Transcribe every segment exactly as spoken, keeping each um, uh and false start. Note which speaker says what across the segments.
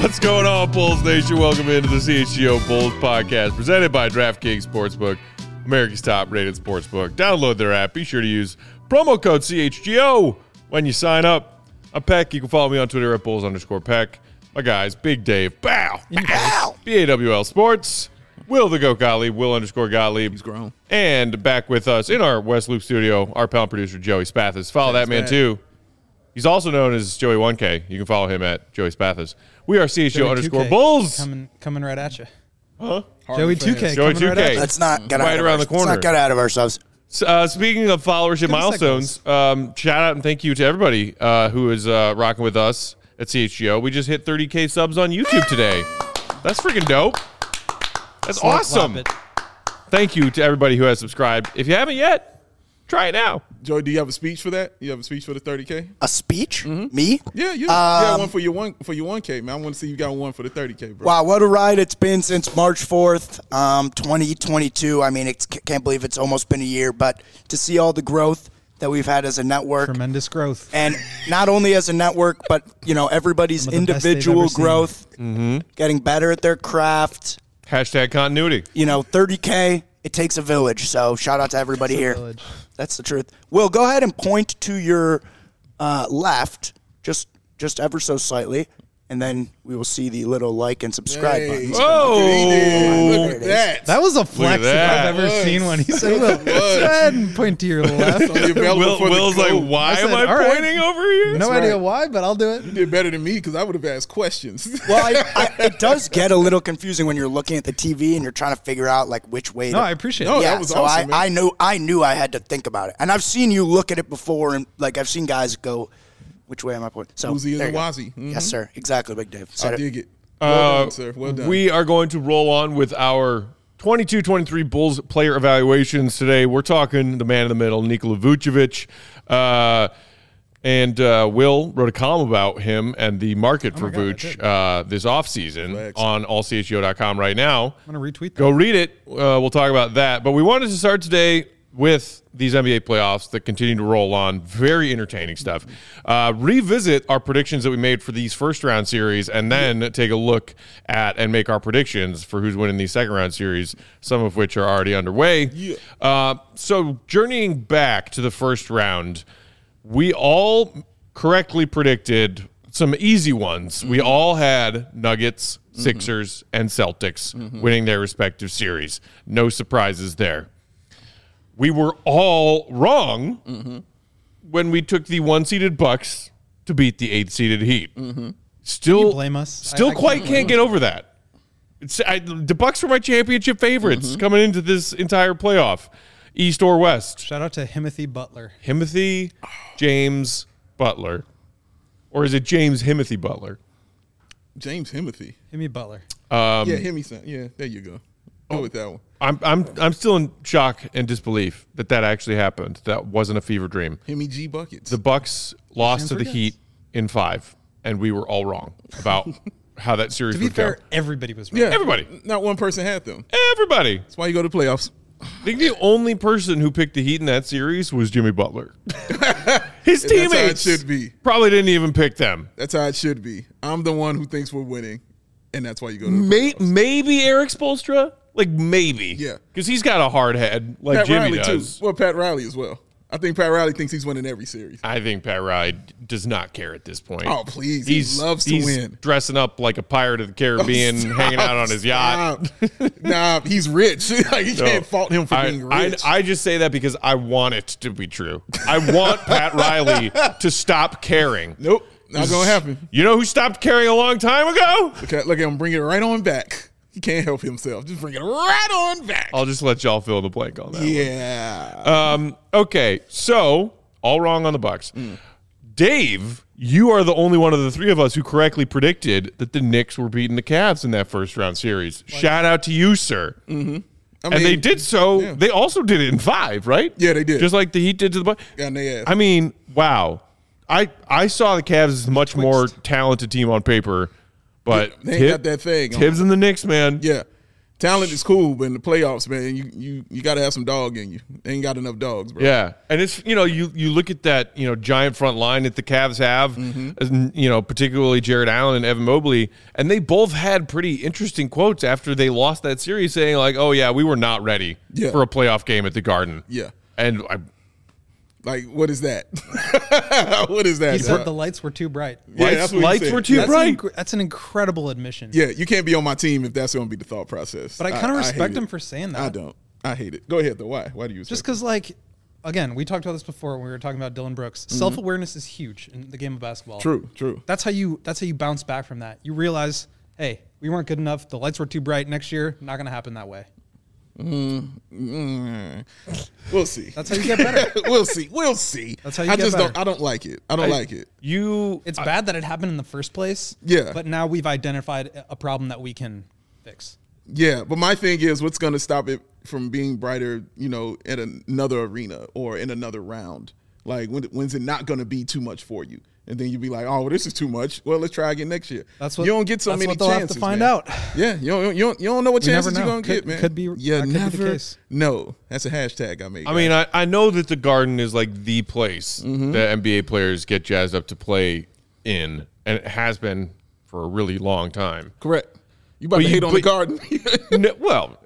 Speaker 1: What's going on, Bulls Nation? Welcome into the C H G O Bulls podcast presented by DraftKings Sportsbook, America's top-rated sportsbook. Download their app. Be sure to use promo code C H G O when you sign up. I'm Peck. You can follow me on Twitter at Bulls underscore Peck. My guys, Big Dave, bow, bow, B A W L Sports, Will the Goat Gottlieb, Will underscore Gottlieb.
Speaker 2: He's grown. And
Speaker 1: back with us in our West Loop studio, our pal producer, Joey Spathis. Follow Thanks, that man, man, too. He's also known as Joey one K. You can follow him at Joey Spathis. We are C H G O underscore Bulls.
Speaker 3: Coming, coming right at you.
Speaker 1: Huh?
Speaker 3: Joey two K.
Speaker 1: Joey two K.
Speaker 3: Right
Speaker 4: Let's not get
Speaker 1: right
Speaker 4: out
Speaker 1: around
Speaker 4: of
Speaker 1: the corner.
Speaker 4: Let's not get out of ourselves.
Speaker 1: Uh, speaking of followership milestones, um, shout out and thank you to everybody uh, who is uh, rocking with us at C H G O. We just hit thirty K subs on YouTube today. That's freaking dope. That's
Speaker 3: Slap,
Speaker 1: awesome.
Speaker 3: slap
Speaker 1: Thank you to everybody who has subscribed. If you haven't yet, try it now.
Speaker 2: Joey, do you have a speech for that? You have a speech for the thirty K?
Speaker 4: A speech?
Speaker 2: Mm-hmm.
Speaker 4: Me?
Speaker 2: Yeah, you,
Speaker 4: Um,
Speaker 2: you got one for your one for your one K, man. I want to see you got one for the thirty K, bro.
Speaker 4: Wow, what a ride it's been since March fourth, um, twenty twenty-two. I mean, it's, can't believe it's almost been a year, but to see all the growth that we've had as a network.
Speaker 3: Tremendous growth.
Speaker 4: And not only as a network, but, you know, everybody's
Speaker 3: Some of the best they've
Speaker 4: individual
Speaker 3: ever seen.
Speaker 4: growth,
Speaker 1: Mm-hmm.
Speaker 4: getting better at their craft.
Speaker 1: Hashtag continuity.
Speaker 4: You know, thirty K, it takes a village. So shout out to everybody here.
Speaker 3: Village.
Speaker 4: That's the truth. Will, go ahead and point to your uh, left, just just ever so slightly, and then we will see the little like and subscribe
Speaker 2: Hey.
Speaker 4: buttons.
Speaker 1: Whoa.
Speaker 2: Look at that.
Speaker 3: That was a flex if
Speaker 1: that.
Speaker 3: I've ever
Speaker 2: Was.
Speaker 3: seen one. He said, "Will,
Speaker 2: Was.
Speaker 3: go ahead and point to your left."
Speaker 2: Only available
Speaker 1: Will,
Speaker 2: for the
Speaker 1: Will's like,
Speaker 2: code.
Speaker 1: why
Speaker 3: I said,
Speaker 1: am I
Speaker 3: all right.
Speaker 1: pointing over here?
Speaker 3: No
Speaker 4: right.
Speaker 3: idea why, but I'll do it.
Speaker 2: You did better than me because I would have asked questions.
Speaker 4: Well, I, I, it does get a little confusing when you're looking at the T V and you're trying to figure out like which way.
Speaker 3: No,
Speaker 4: to,
Speaker 3: I appreciate
Speaker 2: No,
Speaker 3: it.
Speaker 2: that
Speaker 4: yeah,
Speaker 2: was
Speaker 4: so
Speaker 2: awesome, man.
Speaker 4: I, I knew I knew I had to think about it, and I've seen you look at it before, and like I've seen guys go, "Which way am I pointing?" So
Speaker 2: Uzi
Speaker 4: there
Speaker 2: and
Speaker 4: you go.
Speaker 2: Wazi. Mhm.
Speaker 4: Yes, sir. Exactly, Big Dave. Said
Speaker 2: I
Speaker 4: it.
Speaker 2: dig it. Well
Speaker 1: Uh,
Speaker 2: done, sir. Well done.
Speaker 1: We are going to roll on with our twenty-two twenty-three Bulls player evaluations today. We're talking the man in the middle, Nikola Vucevic. Uh, and uh, Will wrote a column about him and the market for
Speaker 3: God, I
Speaker 1: Vooch
Speaker 3: did.
Speaker 1: uh, this offseason
Speaker 2: Flex.
Speaker 1: on all C H G O dot com right now.
Speaker 3: I'm going to retweet that.
Speaker 1: Go read it. Uh, we'll talk about that. But we wanted to start today with these N B A playoffs that continue to roll on. Very entertaining stuff. Uh, revisit our predictions that we made for these first round series and then take a look at and make our predictions for who's winning these second round series, some of which are already underway.
Speaker 2: Yeah.
Speaker 1: Uh, so journeying back to the first round, we all correctly predicted some easy ones. We all had Nuggets, Sixers, and Celtics winning their respective series. No surprises there. We were all wrong
Speaker 2: Mm-hmm.
Speaker 1: when we took the one-seeded Bucks to beat the eight-seeded Heat.
Speaker 2: Mm-hmm.
Speaker 1: Still,
Speaker 3: Can you blame us?
Speaker 1: Still
Speaker 3: I- I
Speaker 1: quite
Speaker 3: can't
Speaker 1: can't, get over that. It's, I, the Bucks were my championship favorites
Speaker 2: Mm-hmm.
Speaker 1: coming into this entire playoff, East or West.
Speaker 3: Shout out to Himothy Butler.
Speaker 1: Himothy James Butler, or is it James Himothy Butler?
Speaker 2: James Himothy.
Speaker 3: Himmy Butler.
Speaker 1: Um,
Speaker 2: yeah, Himmy son. Yeah, there you go. Go with that one.
Speaker 1: I'm I'm I'm still in shock and disbelief that that actually happened. That wasn't a fever dream.
Speaker 2: Himmy G buckets.
Speaker 1: The Bucks lost to the
Speaker 3: forgets.
Speaker 1: Heat in five, and we were all wrong about how that series
Speaker 3: To be
Speaker 1: would
Speaker 3: fair,
Speaker 1: go.
Speaker 3: everybody was right.
Speaker 2: yeah,
Speaker 1: everybody.
Speaker 2: Not one person had them.
Speaker 1: Everybody.
Speaker 2: That's why you go to playoffs.
Speaker 1: I think the only person who picked the Heat in that series was Jimmy Butler. His
Speaker 2: And that's how it
Speaker 1: teammates
Speaker 2: should be.
Speaker 1: probably didn't even pick them.
Speaker 2: That's how it should be. I'm the one who thinks we're winning, and that's why you go to the
Speaker 1: May-
Speaker 2: playoffs.
Speaker 1: maybe Eric Spoelstra, like maybe,
Speaker 2: Yeah.
Speaker 1: because he's got a hard head like
Speaker 2: Pat
Speaker 1: Jimmy
Speaker 2: Riley
Speaker 1: does.
Speaker 2: too. Well, Pat Riley as well. I think Pat Riley thinks he's winning every series.
Speaker 1: I think Pat Riley does not care at this point.
Speaker 2: Oh, please.
Speaker 1: He's,
Speaker 2: he loves to
Speaker 1: he's
Speaker 2: win.
Speaker 1: dressing up like a pirate of the Caribbean,
Speaker 2: Stop,
Speaker 1: hanging out on his yacht.
Speaker 2: stop. Nah, he's rich. Like, you
Speaker 1: No.
Speaker 2: can't fault him for
Speaker 1: I,
Speaker 2: being
Speaker 1: I,
Speaker 2: rich.
Speaker 1: I just say that because I want it to be true. I want Pat Riley to stop caring.
Speaker 2: nope, not gonna happen.
Speaker 1: You know who stopped caring a long time ago?
Speaker 2: Look at, look at him bring it right on back. He can't help himself. Just bring it right on back.
Speaker 1: I'll just let y'all fill in the blank on that.
Speaker 2: yeah.
Speaker 1: Um, okay, so all wrong on the Bucks.
Speaker 2: Mm.
Speaker 1: Dave, you are the only one of the three of us who correctly predicted that the Knicks were beating the Cavs in that first round series. Shout out to you, sir.
Speaker 2: Mm-hmm. I
Speaker 1: And they
Speaker 2: mean,
Speaker 1: did so.
Speaker 2: yeah.
Speaker 1: They also did it in five, right?
Speaker 2: Yeah, they did.
Speaker 1: Just like the Heat did to the Bucks.
Speaker 2: Got in their ass.
Speaker 1: I mean, wow. I I saw the Cavs as a much more talented team on paper, but
Speaker 2: They ain't
Speaker 1: Tib-
Speaker 2: got that thing on.
Speaker 1: Tibbs and the Knicks, man.
Speaker 2: Yeah. Talent is cool, but in the playoffs, man, you you you got to have some dog in you. They ain't got enough dogs, bro.
Speaker 1: Yeah, and it's you know you you look at that you know giant front line that the Cavs have,
Speaker 2: Mm-hmm.
Speaker 1: and, you know particularly Jared Allen and Evan Mobley, and they both had pretty interesting quotes after they lost that series, saying like, "Oh yeah, we were not ready
Speaker 2: Yeah.
Speaker 1: for a playoff game at the Garden."
Speaker 2: Yeah.
Speaker 1: and I,
Speaker 2: Like, what is that? What is that?
Speaker 3: He
Speaker 2: dog?
Speaker 3: said the lights were too bright.
Speaker 2: Yeah,
Speaker 1: lights,
Speaker 2: that's what he
Speaker 1: lights
Speaker 2: said.
Speaker 1: were too
Speaker 3: That's,
Speaker 1: bright.
Speaker 3: an, inc- that's an incredible admission.
Speaker 2: Yeah, you can't be on my team if that's going to be the thought process.
Speaker 3: But I kind of
Speaker 2: hate
Speaker 3: respect
Speaker 2: it.
Speaker 3: him for saying that.
Speaker 2: I don't. I hate it. Go ahead, though. Why? Why do you?
Speaker 3: Just
Speaker 2: respect
Speaker 3: because, like, again, we talked about this before when we were talking about Dylan Brooks. Self awareness is huge in the game of basketball.
Speaker 2: it? True, true.
Speaker 3: That's how you. That's how you bounce back from that. You realize, hey, we weren't good enough. The lights were too bright. Next year, not going to happen that way.
Speaker 2: Mm, we'll see.
Speaker 3: That's how you get better.
Speaker 2: we'll see. We'll see.
Speaker 3: That's how you
Speaker 2: I
Speaker 3: get
Speaker 2: just
Speaker 3: better.
Speaker 2: don't. I don't like it. I don't like it.
Speaker 1: you
Speaker 3: It's bad that it happened in the first place.
Speaker 2: Yeah.
Speaker 3: But now we've identified a problem that we can fix.
Speaker 2: Yeah, but my thing is, what's going to stop it from being brighter? You know, at another arena or in another round. Like, when, when's it not going to be too much for you? And then you'd be like, oh, well, this is too much. Well, let's try again next year.
Speaker 3: That's what
Speaker 2: you don't get so
Speaker 3: that's
Speaker 2: many
Speaker 3: what they'll
Speaker 2: chances.
Speaker 3: have to find
Speaker 2: man.
Speaker 3: out.
Speaker 2: Yeah, you don't, you don't, you don't know what
Speaker 3: We never
Speaker 2: chances you're
Speaker 3: know.
Speaker 2: going to
Speaker 3: Could-
Speaker 2: get, man.
Speaker 3: could be-
Speaker 2: You
Speaker 3: that could be the
Speaker 2: never
Speaker 3: case.
Speaker 2: know. That's a hashtag I made.
Speaker 1: I mean, I, I know that the Garden is like the place
Speaker 2: Mm-hmm.
Speaker 1: that N B A players get jazzed up to play in, and it has been for a really long time.
Speaker 2: correct. You about
Speaker 1: But
Speaker 2: to
Speaker 1: you-
Speaker 2: hate on
Speaker 1: but-
Speaker 2: the Garden.
Speaker 1: No, well,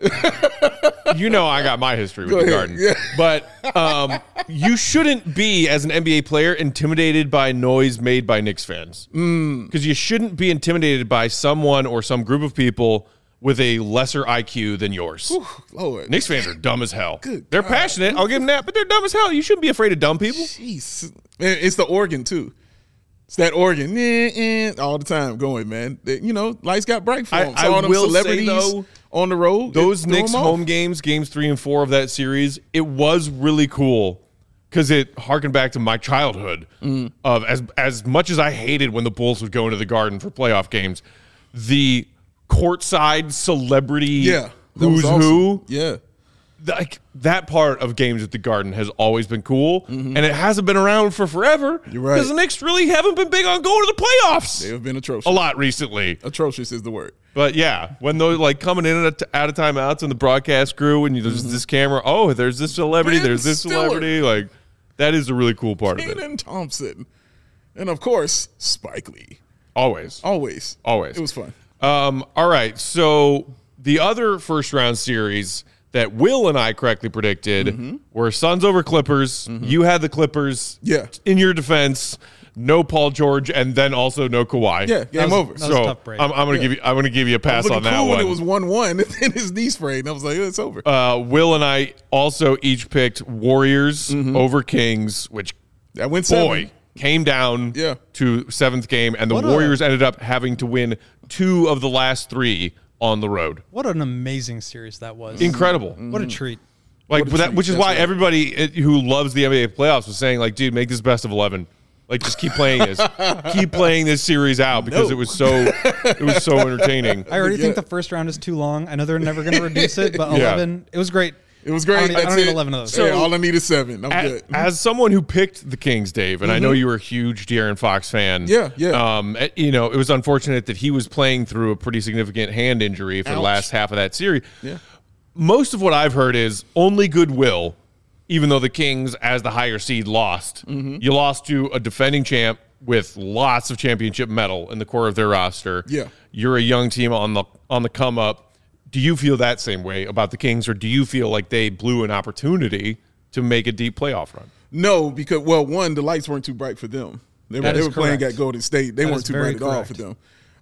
Speaker 1: you know I got my history with
Speaker 2: Go
Speaker 1: the
Speaker 2: ahead,
Speaker 1: Garden,
Speaker 2: yeah.
Speaker 1: but um, you shouldn't be as an N B A player intimidated by noise made by Knicks fans, because
Speaker 2: Mm.
Speaker 1: you shouldn't be intimidated by someone or some group of people with a lesser I Q than yours.
Speaker 2: Lord.
Speaker 1: Knicks fans are dumb as hell.
Speaker 2: Good
Speaker 1: they're
Speaker 2: God.
Speaker 1: passionate. I'll give them that, but they're dumb as hell. You shouldn't be afraid of dumb people.
Speaker 2: Jeez. Man, it's the organ, too. It's that organ eh, eh, all the time going, man. They- you know, lights got bright for
Speaker 1: I-
Speaker 2: them.
Speaker 1: I
Speaker 2: So all them
Speaker 1: will say,
Speaker 2: celebrities
Speaker 1: though,
Speaker 2: on the road.
Speaker 1: Those
Speaker 2: it threw
Speaker 1: Knicks
Speaker 2: 'em off.
Speaker 1: home games, games three and four of that series, it was really cool because it harkened back to my childhood.
Speaker 2: Mm.
Speaker 1: Of as as much as I hated when the Bulls would go into the Garden for playoff games, the courtside celebrity
Speaker 2: Yeah. that was
Speaker 1: who's
Speaker 2: awesome.
Speaker 1: who,
Speaker 2: Yeah.
Speaker 1: like that part of games at the Garden has always been cool, and it hasn't been around for forever.
Speaker 2: Mm-hmm. You're right.
Speaker 1: Because the Knicks really haven't been big on going to the playoffs
Speaker 2: They have been atrocious.
Speaker 1: a lot recently.
Speaker 2: Atrocious is the word.
Speaker 1: But yeah, when those like coming in and out of timeouts and the broadcast crew and there's this camera, oh, there's this celebrity,
Speaker 2: Ben
Speaker 1: there's this
Speaker 2: Stiller.
Speaker 1: celebrity, like that is a really cool part of it.
Speaker 2: Kenan Thompson. And of course, Spike Lee.
Speaker 1: Always,
Speaker 2: Always.
Speaker 1: always.
Speaker 2: It was fun.
Speaker 1: Um, all right, so the other first round series that Will and I correctly predicted were Suns over Clippers. You had the Clippers.
Speaker 2: Yeah.
Speaker 1: In your defense, no Paul George, and then also no Kawhi.
Speaker 2: Yeah, game
Speaker 3: was-
Speaker 2: over.
Speaker 3: that was
Speaker 1: So
Speaker 3: a tough break.
Speaker 1: I'm, I'm gonna
Speaker 2: Yeah.
Speaker 1: give you. I'm gonna give you a
Speaker 2: I
Speaker 1: pass
Speaker 2: was
Speaker 1: on
Speaker 2: looking
Speaker 1: that
Speaker 2: cool
Speaker 1: one.
Speaker 2: when it was one one, and then his knee sprayed, and I was like, oh, it's over.
Speaker 1: Uh, Will and I also each picked Warriors
Speaker 2: Mm-hmm.
Speaker 1: over Kings, which
Speaker 2: that went
Speaker 1: boy
Speaker 2: seven.
Speaker 1: came down
Speaker 2: Yeah.
Speaker 1: to seventh game, and the
Speaker 3: What a-
Speaker 1: Warriors ended up having to win two of the last three on the road.
Speaker 3: What an amazing series that was.
Speaker 1: Incredible.
Speaker 3: What a treat.
Speaker 1: Like
Speaker 2: What a
Speaker 1: but that,
Speaker 2: treat.
Speaker 1: which is
Speaker 2: That's
Speaker 1: why
Speaker 2: right.
Speaker 1: everybody it- who loves the N B A playoffs was saying, like, dude, make this best of eleven. Like, just keep playing this, keep playing this series out because
Speaker 2: No.
Speaker 1: it was so, it was so entertaining.
Speaker 3: I already
Speaker 2: Yeah.
Speaker 3: think the first round is too long. I know they're never going to reduce it, but
Speaker 1: Yeah.
Speaker 3: eleven, it was great.
Speaker 2: It was great.
Speaker 3: I don't, need- I
Speaker 2: That's
Speaker 3: don't need
Speaker 2: it.
Speaker 3: eleven of those.
Speaker 2: So, yeah, all I need is seven. I'm
Speaker 1: as,
Speaker 2: good.
Speaker 1: as someone who picked the Kings, Dave, and I know you were a huge De'Aaron Fox fan.
Speaker 2: Yeah, yeah.
Speaker 1: Um, eh, you know, it was unfortunate that he was playing through a pretty significant hand injury for the
Speaker 2: Ouch.
Speaker 1: last half of that series.
Speaker 2: Yeah.
Speaker 1: Most of what I've heard is only goodwill, even though the Kings, as the higher seed, lost.
Speaker 2: Mm-hmm.
Speaker 1: You lost to a defending champ with lots of championship metal in the core of their roster.
Speaker 2: Yeah.
Speaker 1: You're a young team on the on the come up. Do you feel that same way about the Kings, or do you feel like they blew an opportunity to make a deep playoff run?
Speaker 2: No, because, well, one, the lights weren't too bright for them. They were,
Speaker 3: That
Speaker 2: they
Speaker 3: is
Speaker 2: were playing
Speaker 3: correct.
Speaker 2: at Golden State. They
Speaker 3: That
Speaker 2: weren't
Speaker 3: is
Speaker 2: too
Speaker 3: very
Speaker 2: bright at all
Speaker 3: correct.
Speaker 2: for them.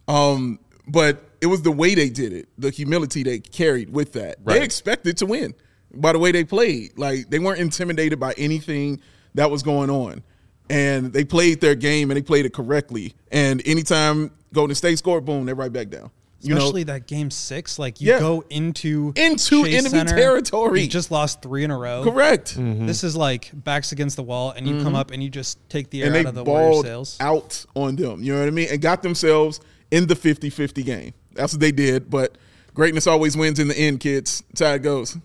Speaker 2: Um, but it was the way they did it, the humility they carried with that.
Speaker 1: Right.
Speaker 2: They expected to win by the way they played. Like, they weren't intimidated by anything that was going on. And they played their game, and they played it correctly. And anytime Golden State scored, boom, they're right back down. You know,
Speaker 3: Especially that game six, like you
Speaker 2: Yeah.
Speaker 3: go into
Speaker 2: Into
Speaker 3: Chase
Speaker 2: enemy
Speaker 3: Center,
Speaker 2: territory.
Speaker 3: You just lost three in a row.
Speaker 2: correct.
Speaker 3: This is like backs against the wall, and you come up and you just take the air
Speaker 2: And they
Speaker 3: out of the Warriors'
Speaker 2: balled
Speaker 3: sails.
Speaker 2: out on them. You know what I mean? And got themselves in the fifty-fifty game. That's what they did. But greatness always wins in the end, kids. That's how it goes.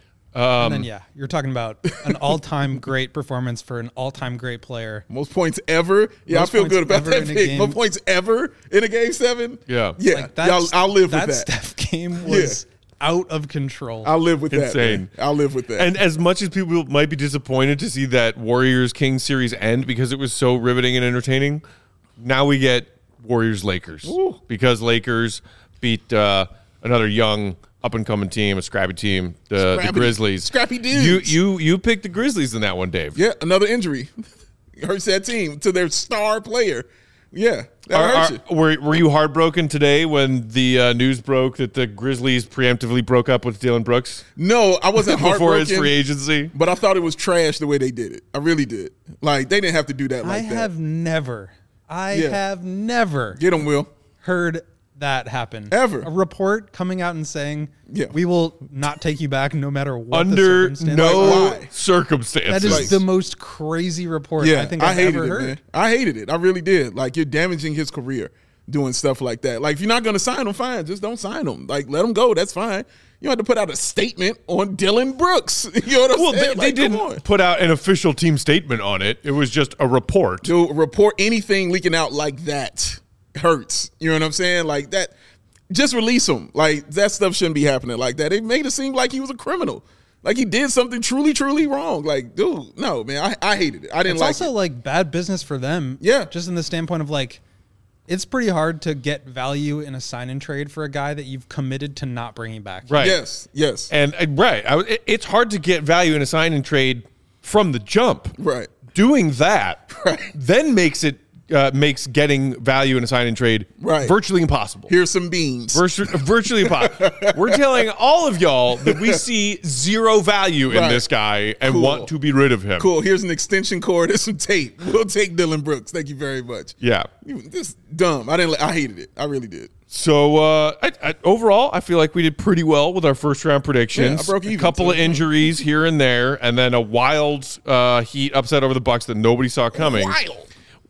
Speaker 3: and then yeah, you're talking about an all-time great performance for an all-time great player.
Speaker 2: Most points ever. Yeah,
Speaker 3: Most
Speaker 2: I feel
Speaker 3: points
Speaker 2: good about
Speaker 3: ever
Speaker 2: that
Speaker 3: in a
Speaker 2: pick.
Speaker 3: game.
Speaker 2: Most points ever in a game seven.
Speaker 1: Yeah.
Speaker 2: Yeah.
Speaker 3: Like that,
Speaker 2: Y'all, I'll live
Speaker 3: that
Speaker 2: with that.
Speaker 3: Steph game was out of control.
Speaker 2: I'll live with that.
Speaker 1: Insane.
Speaker 2: Man. I'll live with that.
Speaker 1: And as much as people might be disappointed to see that Warriors Kings series end because it was so riveting and entertaining, now we get Warriors Lakers
Speaker 2: Ooh.
Speaker 1: because Lakers beat uh, another young up and coming team, a scrappy team, the, the
Speaker 2: Scrappy-
Speaker 1: Grizzlies.
Speaker 2: scrappy dudes.
Speaker 1: You you you picked the Grizzlies in that one, Dave.
Speaker 2: yeah, another injury hurts that team to their star player. Yeah, that
Speaker 1: Are-
Speaker 2: hurts
Speaker 1: are-
Speaker 2: you.
Speaker 1: were were you heartbroken today when the uh, news broke that the Grizzlies preemptively broke up with Dylan Brooks
Speaker 2: No, I wasn't
Speaker 1: before his
Speaker 2: heartbroken.
Speaker 1: free agency?
Speaker 2: But I thought it was trash the way they did it. I really did. Like they didn't have to do that
Speaker 3: I
Speaker 2: like that.
Speaker 3: have never, I
Speaker 2: Yeah.
Speaker 3: have never
Speaker 2: Get them, Will.
Speaker 3: heard that happen.
Speaker 2: Ever.
Speaker 3: A report coming out and saying,
Speaker 2: Yeah.
Speaker 3: we will not take you back no matter what
Speaker 1: Under
Speaker 3: the circumstance.
Speaker 1: no
Speaker 2: Like, why?
Speaker 1: circumstances.
Speaker 3: That is
Speaker 2: Like-
Speaker 3: the most crazy report
Speaker 2: Yeah,
Speaker 3: I think
Speaker 2: I
Speaker 3: I've
Speaker 2: hated
Speaker 3: ever
Speaker 2: it,
Speaker 3: heard.
Speaker 2: man. I hated it. I really did. Like you're damaging his career doing stuff like that. Like if you're not going to sign him, fine. Just don't sign him. Like let him go. That's fine. You don't have to put out a statement on Dylan Brooks. You know what I'm
Speaker 1: Well,
Speaker 2: saying?
Speaker 1: they, they
Speaker 2: Like, come on.
Speaker 1: didn't put out an official team statement on it. It was just a report.
Speaker 2: To report anything leaking out like that hurts. You know what I'm saying? Like that. Just release him. Like that stuff shouldn't be happening like that. It made it seem like he was a criminal. Like he did something truly, truly wrong. Like, dude, no, man, I, I hated it. I didn't
Speaker 3: It's
Speaker 2: like
Speaker 3: also
Speaker 2: it.
Speaker 3: like bad business for them.
Speaker 2: Yeah.
Speaker 3: Just in the standpoint of like, it's pretty hard to get value in a sign and trade for a guy that you've committed to not bringing back.
Speaker 1: Right.
Speaker 2: Yes, yes,
Speaker 1: And, and right, I, it- it's hard to get value in a sign and trade from the jump.
Speaker 2: right.
Speaker 1: Doing that
Speaker 2: Right.
Speaker 1: then makes it uh, makes getting value in a sign and trade
Speaker 2: Right.
Speaker 1: virtually impossible.
Speaker 2: Here's some beans.
Speaker 1: Virtu- virtually impossible. We're telling all of y'all that we see zero value in
Speaker 2: Right.
Speaker 1: this guy and
Speaker 2: Cool.
Speaker 1: want to be rid of him.
Speaker 2: Cool. Here's an extension cord and some tape. We'll take Dylan Brooks. Thank you very much.
Speaker 1: Yeah.
Speaker 2: You, this dumb. I didn't. li- I hated it. I really did.
Speaker 1: So uh, I, I, overall, I feel like we did pretty well with our first round predictions.
Speaker 2: Yeah, I broke even,
Speaker 1: a couple
Speaker 2: too.
Speaker 1: of injuries here and there, and then a wild uh, Heat upset over the Bucks that nobody saw coming.
Speaker 2: Wild.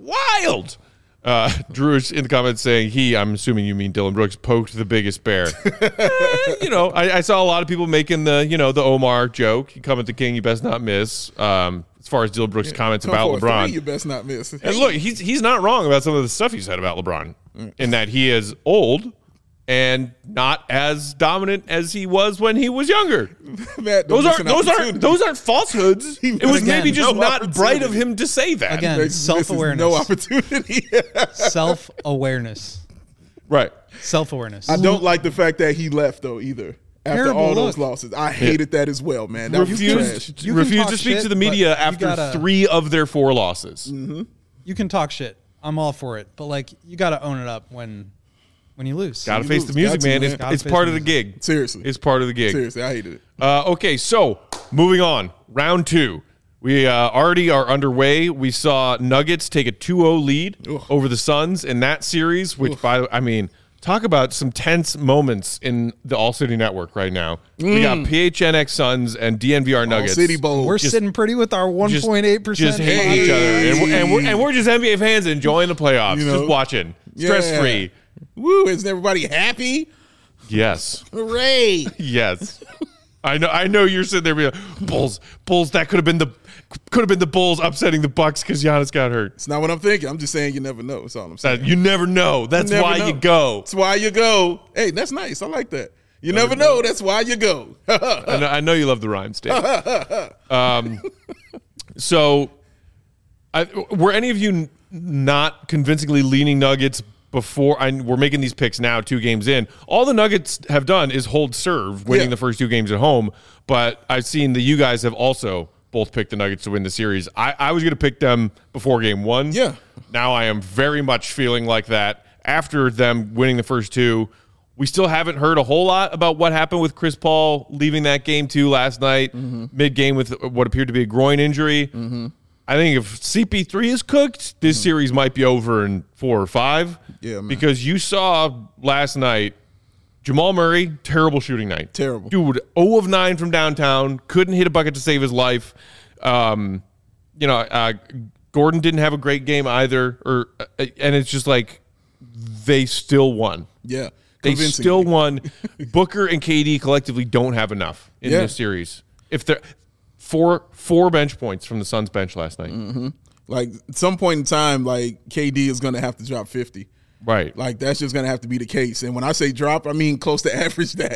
Speaker 1: Wild. Uh, Drew is in the comments saying he, I'm assuming you mean Dylan Brooks, poked the biggest bear. Eh, you know, I, I saw a lot of people making the, you know, the Omar joke. You come at the king, you best not miss. Um, as far as Dylan Brooks' comments
Speaker 2: Come
Speaker 1: about
Speaker 2: for a
Speaker 1: LeBron.
Speaker 2: three, you best not miss.
Speaker 1: And look, he's he's not wrong about some of the stuff he said about LeBron, in that he is old and not as dominant as he was when he was younger.
Speaker 2: Matt, don't
Speaker 1: Those
Speaker 2: miss
Speaker 1: aren't
Speaker 2: an
Speaker 1: those aren't
Speaker 2: opportunity.
Speaker 1: those aren't falsehoods.
Speaker 2: He
Speaker 1: It was
Speaker 2: missed
Speaker 1: maybe just
Speaker 2: no
Speaker 1: not bright of
Speaker 2: opportunity.
Speaker 1: him to say that.
Speaker 3: Again,
Speaker 2: He misses
Speaker 3: self-awareness.
Speaker 2: No opportunity.
Speaker 3: Self-awareness.
Speaker 1: Right.
Speaker 3: Self-awareness.
Speaker 2: I don't like the fact that he left though either. After
Speaker 3: Terrible
Speaker 2: all those
Speaker 3: look.
Speaker 2: losses, I hated that as well, man. That was trash.
Speaker 1: Refused
Speaker 3: You can
Speaker 1: refused
Speaker 3: talk
Speaker 1: to speak
Speaker 3: shit,
Speaker 1: to the
Speaker 3: but
Speaker 1: media
Speaker 3: you
Speaker 1: after
Speaker 3: gotta-
Speaker 1: three of their four losses.
Speaker 3: You can talk shit. I'm all for it. But like, you got to own it up when when you lose.
Speaker 1: Got to
Speaker 2: You
Speaker 1: face
Speaker 2: lose.
Speaker 1: the music,
Speaker 2: Got to,
Speaker 1: man.
Speaker 2: man.
Speaker 1: It's,
Speaker 3: Gotta
Speaker 1: it's
Speaker 3: face
Speaker 1: part
Speaker 3: the
Speaker 1: of the gig.
Speaker 2: Seriously.
Speaker 1: It's part of the gig.
Speaker 2: Seriously, I hated it.
Speaker 1: Uh, okay, so moving on. Round two. We uh, already are underway. We saw Nuggets take a two oh lead
Speaker 2: Ugh.
Speaker 1: over the Suns in that series, which, by the I mean, talk about some tense moments in the All City Network right now. We got P H N X Suns and D N V R Nuggets.
Speaker 2: All City Bowl.
Speaker 3: We're
Speaker 1: Just-
Speaker 3: sitting pretty with our
Speaker 1: just-
Speaker 3: one point eight percent.
Speaker 1: Just hating each other. And we're, and, we're, and we're just N B A fans enjoying the playoffs,
Speaker 2: You know?
Speaker 1: just watching. Stress free.
Speaker 2: Woo! Isn't everybody happy?
Speaker 1: Yes.
Speaker 2: Hooray!
Speaker 1: Yes. I know I know you're sitting there being like, Bulls, Bulls, that could have been the could have been the Bulls upsetting the Bucks because Giannis got hurt.
Speaker 2: It's not what I'm thinking. I'm just saying you never know. That's all I'm saying.
Speaker 1: That you never know. That's
Speaker 2: never
Speaker 1: why
Speaker 2: know.
Speaker 1: you go.
Speaker 2: That's why you go. Hey, that's nice. I like that. You never know. That's why you go.
Speaker 1: I know, I know you love the rhyme, Dave. um, so, I, were any of you n- not convincingly leaning Nuggets before? I, we're making these picks now, two games in. All the Nuggets have done is hold serve, winning
Speaker 2: Yeah.
Speaker 1: the first two games at home. But I've seen that you guys have also both picked the Nuggets to win the series. I, I was going to pick them before game one.
Speaker 2: Yeah.
Speaker 1: Now I am very much feeling like that after them winning the first two. We still haven't heard a whole lot about what happened with Chris Paul leaving that game two last night,
Speaker 2: Mm-hmm.
Speaker 1: mid-game with what appeared to be a groin injury. Mm-hmm. I think if C P three is cooked, this series might be over in four or five.
Speaker 2: Mm-hmm. Yeah, man.
Speaker 1: Because you saw last night, Jamal Murray, terrible shooting night.
Speaker 2: Terrible.
Speaker 1: Dude, zero of nine from downtown, couldn't hit a bucket to save his life. Um, you know, uh, Gordon didn't have a great game either. Or uh, and it's just like they still won.
Speaker 2: Yeah.
Speaker 1: They
Speaker 2: Convincingly.
Speaker 1: still won. Booker and K D collectively don't have enough in
Speaker 2: Yeah.
Speaker 1: this series. If they're four four bench points from the Suns bench last night.
Speaker 2: Mm-hmm. Like at some point in time, like K D is going to have to drop fifty.
Speaker 1: Right.
Speaker 2: Like that's just going to have to be the case. And when I say drop, I mean close to average that.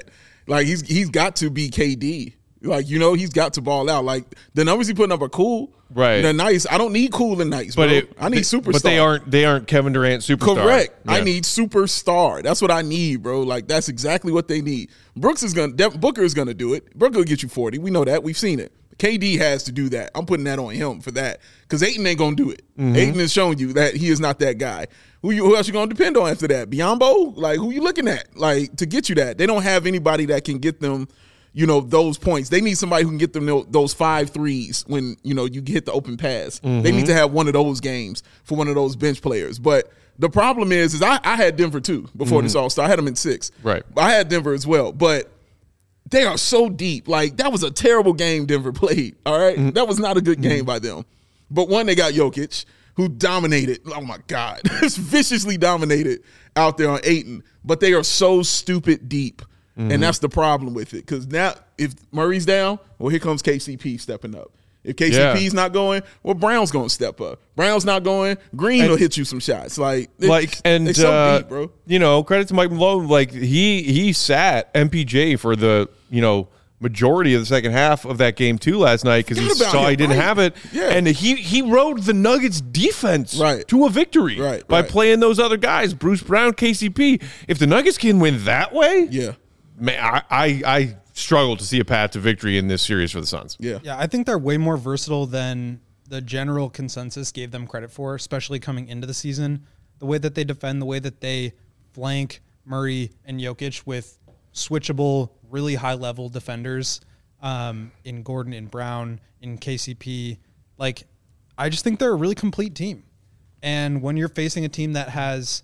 Speaker 2: Like he's he's got to be K D. Like, you know, he's got to ball out. Like the numbers he putting up are cool.
Speaker 1: Right.
Speaker 2: They're nice. I don't need cool and nice,
Speaker 1: But
Speaker 2: bro.
Speaker 1: it,
Speaker 2: I need superstar.
Speaker 1: But they aren't they aren't Kevin Durant superstar.
Speaker 2: Correct. I
Speaker 1: Yeah.
Speaker 2: need superstar. That's what I need, bro. Like that's exactly what they need. Brooks is gonna Dev- Booker is gonna do it. Booker will get you forty. We know that. We've seen it. K D has to do that. I'm putting that on him for that because Ayton ain't gonna do it.
Speaker 1: Mm-hmm.
Speaker 2: Ayton has shown you that he is not that guy. Who you? Who else you gonna depend on after that? Biombo? Like who you looking at? Like to get you that? They don't have anybody that can get them. You know, those points. They need somebody who can get them those five threes when, you know, you get the open pass.
Speaker 1: Mm-hmm.
Speaker 2: They need to have one of those games for one of those bench players. But the problem is, is I, I had Denver too before mm-hmm. this All-Star. I had them in six.
Speaker 1: Right.
Speaker 2: I had Denver as well. But they are so deep. Like, that was a terrible game Denver played, all right? Mm-hmm. That was not a good game mm-hmm. by them. But one, they got Jokic, who dominated. Oh, my God. Viciously dominated out there on Ayton. But they are so stupid deep. Mm-hmm. And that's the problem with it. Because now, if Murray's down, well, here comes K C P stepping up. If K C P's yeah. not going, well, Brown's going to step up. Brown's not going, Green and, will hit you some shots. Like,
Speaker 1: like and
Speaker 2: they're so
Speaker 1: uh,
Speaker 2: deep, bro.
Speaker 1: You know, credit to Mike Malone. Like, he he sat M P J for the, you know, majority of the second half of that game, too, last night because he saw him, he didn't
Speaker 2: right?
Speaker 1: have it.
Speaker 2: Yeah.
Speaker 1: And he, he rode the Nuggets' defense
Speaker 2: right.
Speaker 1: to a victory
Speaker 2: right,
Speaker 1: by
Speaker 2: right.
Speaker 1: playing those other guys, Bruce Brown, K C P. If the Nuggets can win that way,
Speaker 2: yeah.
Speaker 1: Man, I, I I struggle to see a path to victory in this series for the Suns.
Speaker 2: Yeah,
Speaker 3: yeah, I think they're way more versatile than the general consensus gave them credit for, especially coming into the season. The way that they defend, the way that they flank Murray and Jokic with switchable, really high-level defenders um, in Gordon, in Brown, in K C P. Like, I just think they're a really complete team. And when you're facing a team that has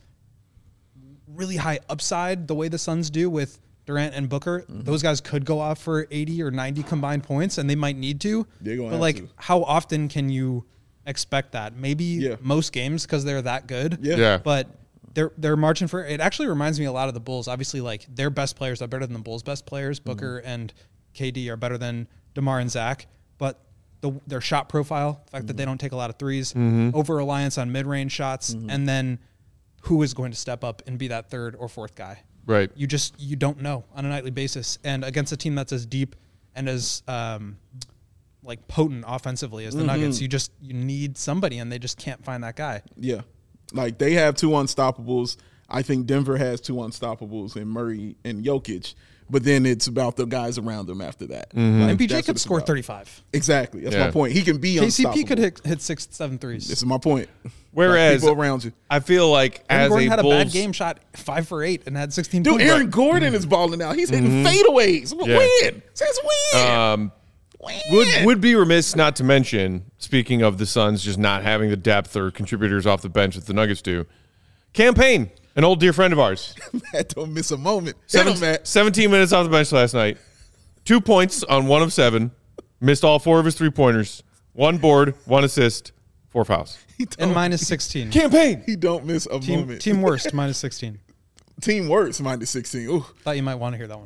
Speaker 3: really high upside, the way the Suns do with Durant and Booker, mm-hmm. those guys could go off for eighty or ninety combined points, and they might need to.
Speaker 2: They're gonna
Speaker 3: but,
Speaker 2: have
Speaker 3: like,
Speaker 2: to.
Speaker 3: how often can you expect that? Maybe
Speaker 2: yeah.
Speaker 3: most games because they're that good.
Speaker 2: Yeah.
Speaker 1: yeah.
Speaker 3: But they're they're marching for it. Actually reminds me a lot of the Bulls. Obviously, like, their best players are better than the Bulls' best players. Booker mm-hmm. and K D are better than DeMar and Zach. But the, their shot profile, the fact mm-hmm. that they don't take a lot of threes, mm-hmm. over-reliance on mid-range shots, mm-hmm. and then who is going to step up and be that third or fourth guy?
Speaker 1: Right.
Speaker 3: You just you don't know on a nightly basis, and against a team that's as deep and as um, like potent offensively as the mm-hmm. Nuggets, you just you need somebody, and they just can't find that guy.
Speaker 2: Yeah, like they have two unstoppables. I think Denver has two unstoppables in Murray and Jokic, but then it's about the guys around them after that.
Speaker 1: Mm-hmm.
Speaker 3: Like, M P J could score about. thirty-five.
Speaker 2: Exactly, that's
Speaker 1: yeah.
Speaker 2: my point. He can be
Speaker 3: K C P
Speaker 2: unstoppable.
Speaker 3: could hit, hit six, seven threes.
Speaker 2: This is my point.
Speaker 1: Whereas
Speaker 2: people around you,
Speaker 1: I feel like
Speaker 3: Aaron
Speaker 1: as
Speaker 3: Gordon
Speaker 1: a
Speaker 3: had
Speaker 1: Bulls,
Speaker 3: a bad game, shot five for eight, and had sixteen.
Speaker 2: Dude,
Speaker 3: points.
Speaker 2: Aaron Gordon is balling out. He's hitting mm-hmm. fadeaways.
Speaker 1: Yeah.
Speaker 2: Win, since when?
Speaker 1: Um,
Speaker 2: when?
Speaker 1: would would be remiss not to mention. Speaking of the Suns, just not having the depth or contributors off the bench that the Nuggets do. Campaign, an old dear friend of ours.
Speaker 2: Matt, don't miss a moment.
Speaker 1: Seven,
Speaker 2: Him, Matt.
Speaker 1: seventeen minutes off the bench last night. Two points on one of seven. Missed all four of his three pointers. One board, one assist, four fouls.
Speaker 3: And minus sixteen.
Speaker 1: Campaign.
Speaker 2: He don't miss a
Speaker 3: Team,
Speaker 2: moment.
Speaker 3: team worst, minus sixteen.
Speaker 2: Team worst, minus sixteen. Ooh.
Speaker 3: Thought you might want to hear that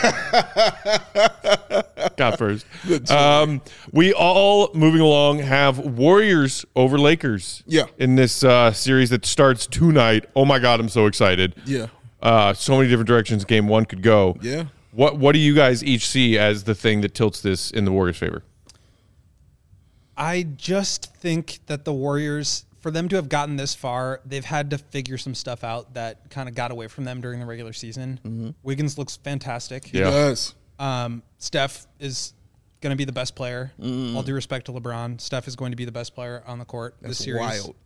Speaker 3: one.
Speaker 1: Got first. Um, we all, moving along, have Warriors over Lakers.
Speaker 2: Yeah.
Speaker 1: In this uh, series that starts tonight. Oh, my God, I'm so excited.
Speaker 2: Yeah.
Speaker 1: Uh, so many different directions game one could go.
Speaker 2: Yeah.
Speaker 1: What What do you guys each see as the thing that tilts this in the Warriors' favor?
Speaker 3: I just think that the Warriors, for them to have gotten this far, they've had to figure some stuff out that kind of got away from them during the regular season.
Speaker 2: Mm-hmm.
Speaker 3: Wiggins looks fantastic.
Speaker 1: Yeah.
Speaker 2: Yes.
Speaker 3: Um, Steph is going to be the best player.
Speaker 2: Mm.
Speaker 3: All due respect to LeBron, Steph is going to be the best player on the court
Speaker 2: That's
Speaker 3: this series.
Speaker 2: wild.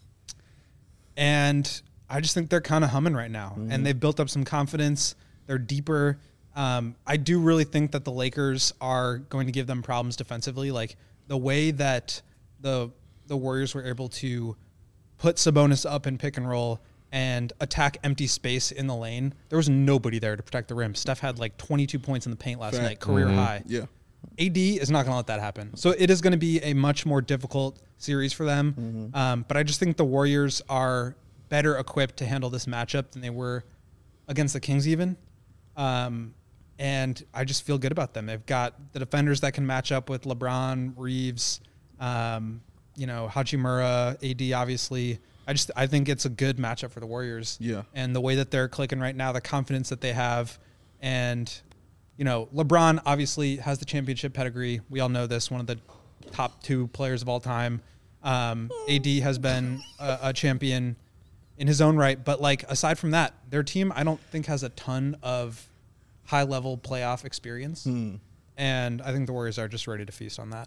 Speaker 3: And I just think they're kind of humming right now. Mm-hmm. And they've built up some confidence. They're deeper. Um, I do really think that the Lakers are going to give them problems defensively. Like, the way that the the Warriors were able to put Sabonis up in pick and roll and attack empty space in the lane, there was nobody there to protect the rim. Steph had like twenty-two points in the paint last
Speaker 2: Fact.
Speaker 3: night, career
Speaker 1: Mm-hmm.
Speaker 3: high.
Speaker 2: Yeah.
Speaker 3: A D is not going to let that happen. So it is going to be a much more difficult series for them.
Speaker 2: Mm-hmm.
Speaker 3: Um, but I just think the Warriors are better equipped to handle this matchup than they were against the Kings even. Um, and I just feel good about them. They've got the defenders that can match up with LeBron, Reeves, um, you know, Hachimura, A D, obviously. I just I think it's a good matchup for the Warriors.
Speaker 2: Yeah.
Speaker 3: And the way that they're clicking right now, the confidence that they have, and you know, LeBron obviously has the championship pedigree. We all know this, one of the top two players of all time. Um, A D has been a, a champion in his own right. But, like, aside from that, their team I don't think has a ton of high-level playoff experience.
Speaker 2: Hmm.
Speaker 3: And I think the Warriors are just ready to feast on that.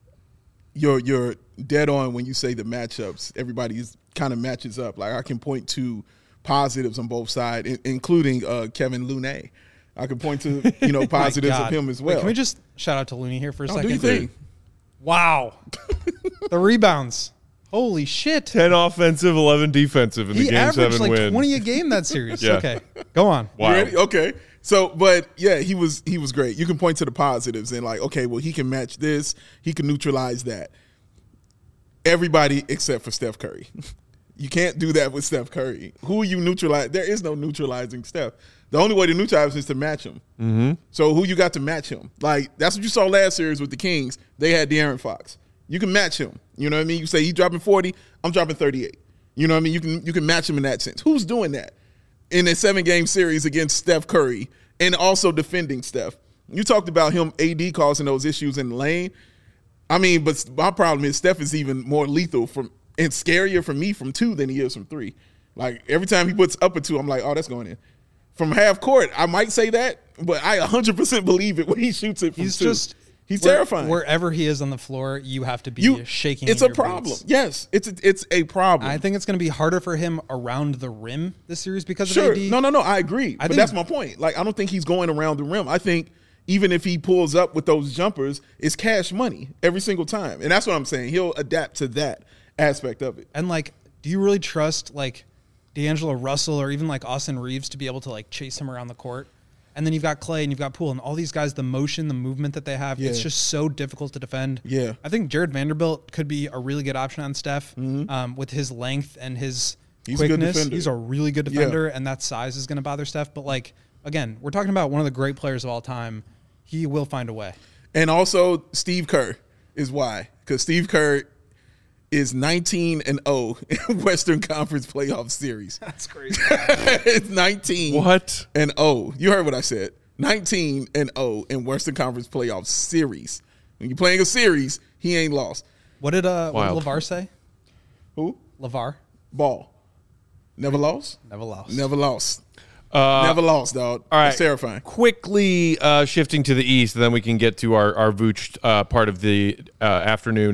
Speaker 2: You're you're dead on when you say the matchups. Everybody's kind of matches up. Like, I can point to positives on both sides, in, including uh, Kevin Looney. I can point to, you know, positives of him as well.
Speaker 3: Wait, can we just shout out to Looney here for a
Speaker 2: Oh,
Speaker 3: second?
Speaker 2: do you think?
Speaker 3: Wow. The rebounds. Holy shit.
Speaker 1: ten offensive, eleven defensive in the
Speaker 3: He
Speaker 1: game
Speaker 3: averaged
Speaker 1: seven
Speaker 3: like
Speaker 1: win.
Speaker 3: twenty a game that series.
Speaker 1: Yeah.
Speaker 3: Okay, go on.
Speaker 1: Wow.
Speaker 2: You ready? Okay. So, but yeah, he was he was great. You can point to the positives and like, okay, well, he can match this. He can neutralize that. Everybody except for Steph Curry. You can't do that with Steph Curry. Who you neutralize? There is no neutralizing Steph. The only way to neutralize is to match him. Mm-hmm. So who you got to match him? Like, that's what you saw last series with the Kings. They had De'Aaron Fox. You can match him. You know what I mean? You say he's dropping forty, I'm dropping thirty-eight. You know what I mean? You can you can match him in that sense. Who's doing that in a seven-game series against Steph Curry and also defending Steph? You talked about him, A D, causing those issues in the lane. I mean, but my problem is Steph is even more lethal from and scarier for me from two than he is from three. Like, every time he puts up a two, I'm like, oh, that's going in. From half court, I might say that, but I one hundred percent believe it when he shoots it from
Speaker 3: He's
Speaker 2: two.
Speaker 3: just
Speaker 2: He's
Speaker 3: where-
Speaker 2: terrifying.
Speaker 3: Wherever he is on the floor, you have to be
Speaker 2: You
Speaker 3: shaking.
Speaker 2: It's
Speaker 3: in
Speaker 2: a
Speaker 3: your
Speaker 2: problem.
Speaker 3: boots.
Speaker 2: Yes, it's a, it's a problem.
Speaker 3: I think it's going to be harder for him around the rim this series because
Speaker 2: Sure.
Speaker 3: of A D.
Speaker 2: No, no, no. I agree.
Speaker 3: I
Speaker 2: but
Speaker 3: think-
Speaker 2: that's my point. Like, I don't think he's going around the rim. I think even if he pulls up with those jumpers, it's cash money every single time. And that's what I'm saying. He'll adapt to that aspect of it.
Speaker 3: And like, do you really trust like D'Angelo Russell or even like Austin Reeves to be able to like chase him around the court? And then you've got Clay and you've got Poole and all these guys, the motion, the movement that they have,
Speaker 2: Yeah.
Speaker 3: it's just so difficult to defend.
Speaker 2: Yeah.
Speaker 3: I think Jared Vanderbilt could be a really good option on Steph um, with his length and his
Speaker 2: He's a good
Speaker 3: quickness.
Speaker 2: defender.
Speaker 3: He's a really good defender, and that size is going to bother Steph. But like, again, we're talking about one of the great players of all time. He will find a way.
Speaker 2: And also, Steve Kerr is why. Because Steve Kerr is nineteen and oh in Western Conference playoff series.
Speaker 3: That's crazy.
Speaker 2: It's nineteen
Speaker 1: What?
Speaker 2: and oh. You heard what I said. nineteen and oh in Western Conference playoff series. When you're playing a series, he ain't lost.
Speaker 3: What did uh, what did
Speaker 1: Wild.
Speaker 3: LeVar say?
Speaker 2: Who?
Speaker 3: LeVar
Speaker 2: Ball. Never lost?
Speaker 3: never lost.
Speaker 2: Never lost.
Speaker 1: Uh,
Speaker 2: Never lost, dog.
Speaker 1: all right.
Speaker 2: It's terrifying.
Speaker 1: Quickly uh, shifting to the East, and then we can get to our, our Vooch uh, part of the uh, afternoon.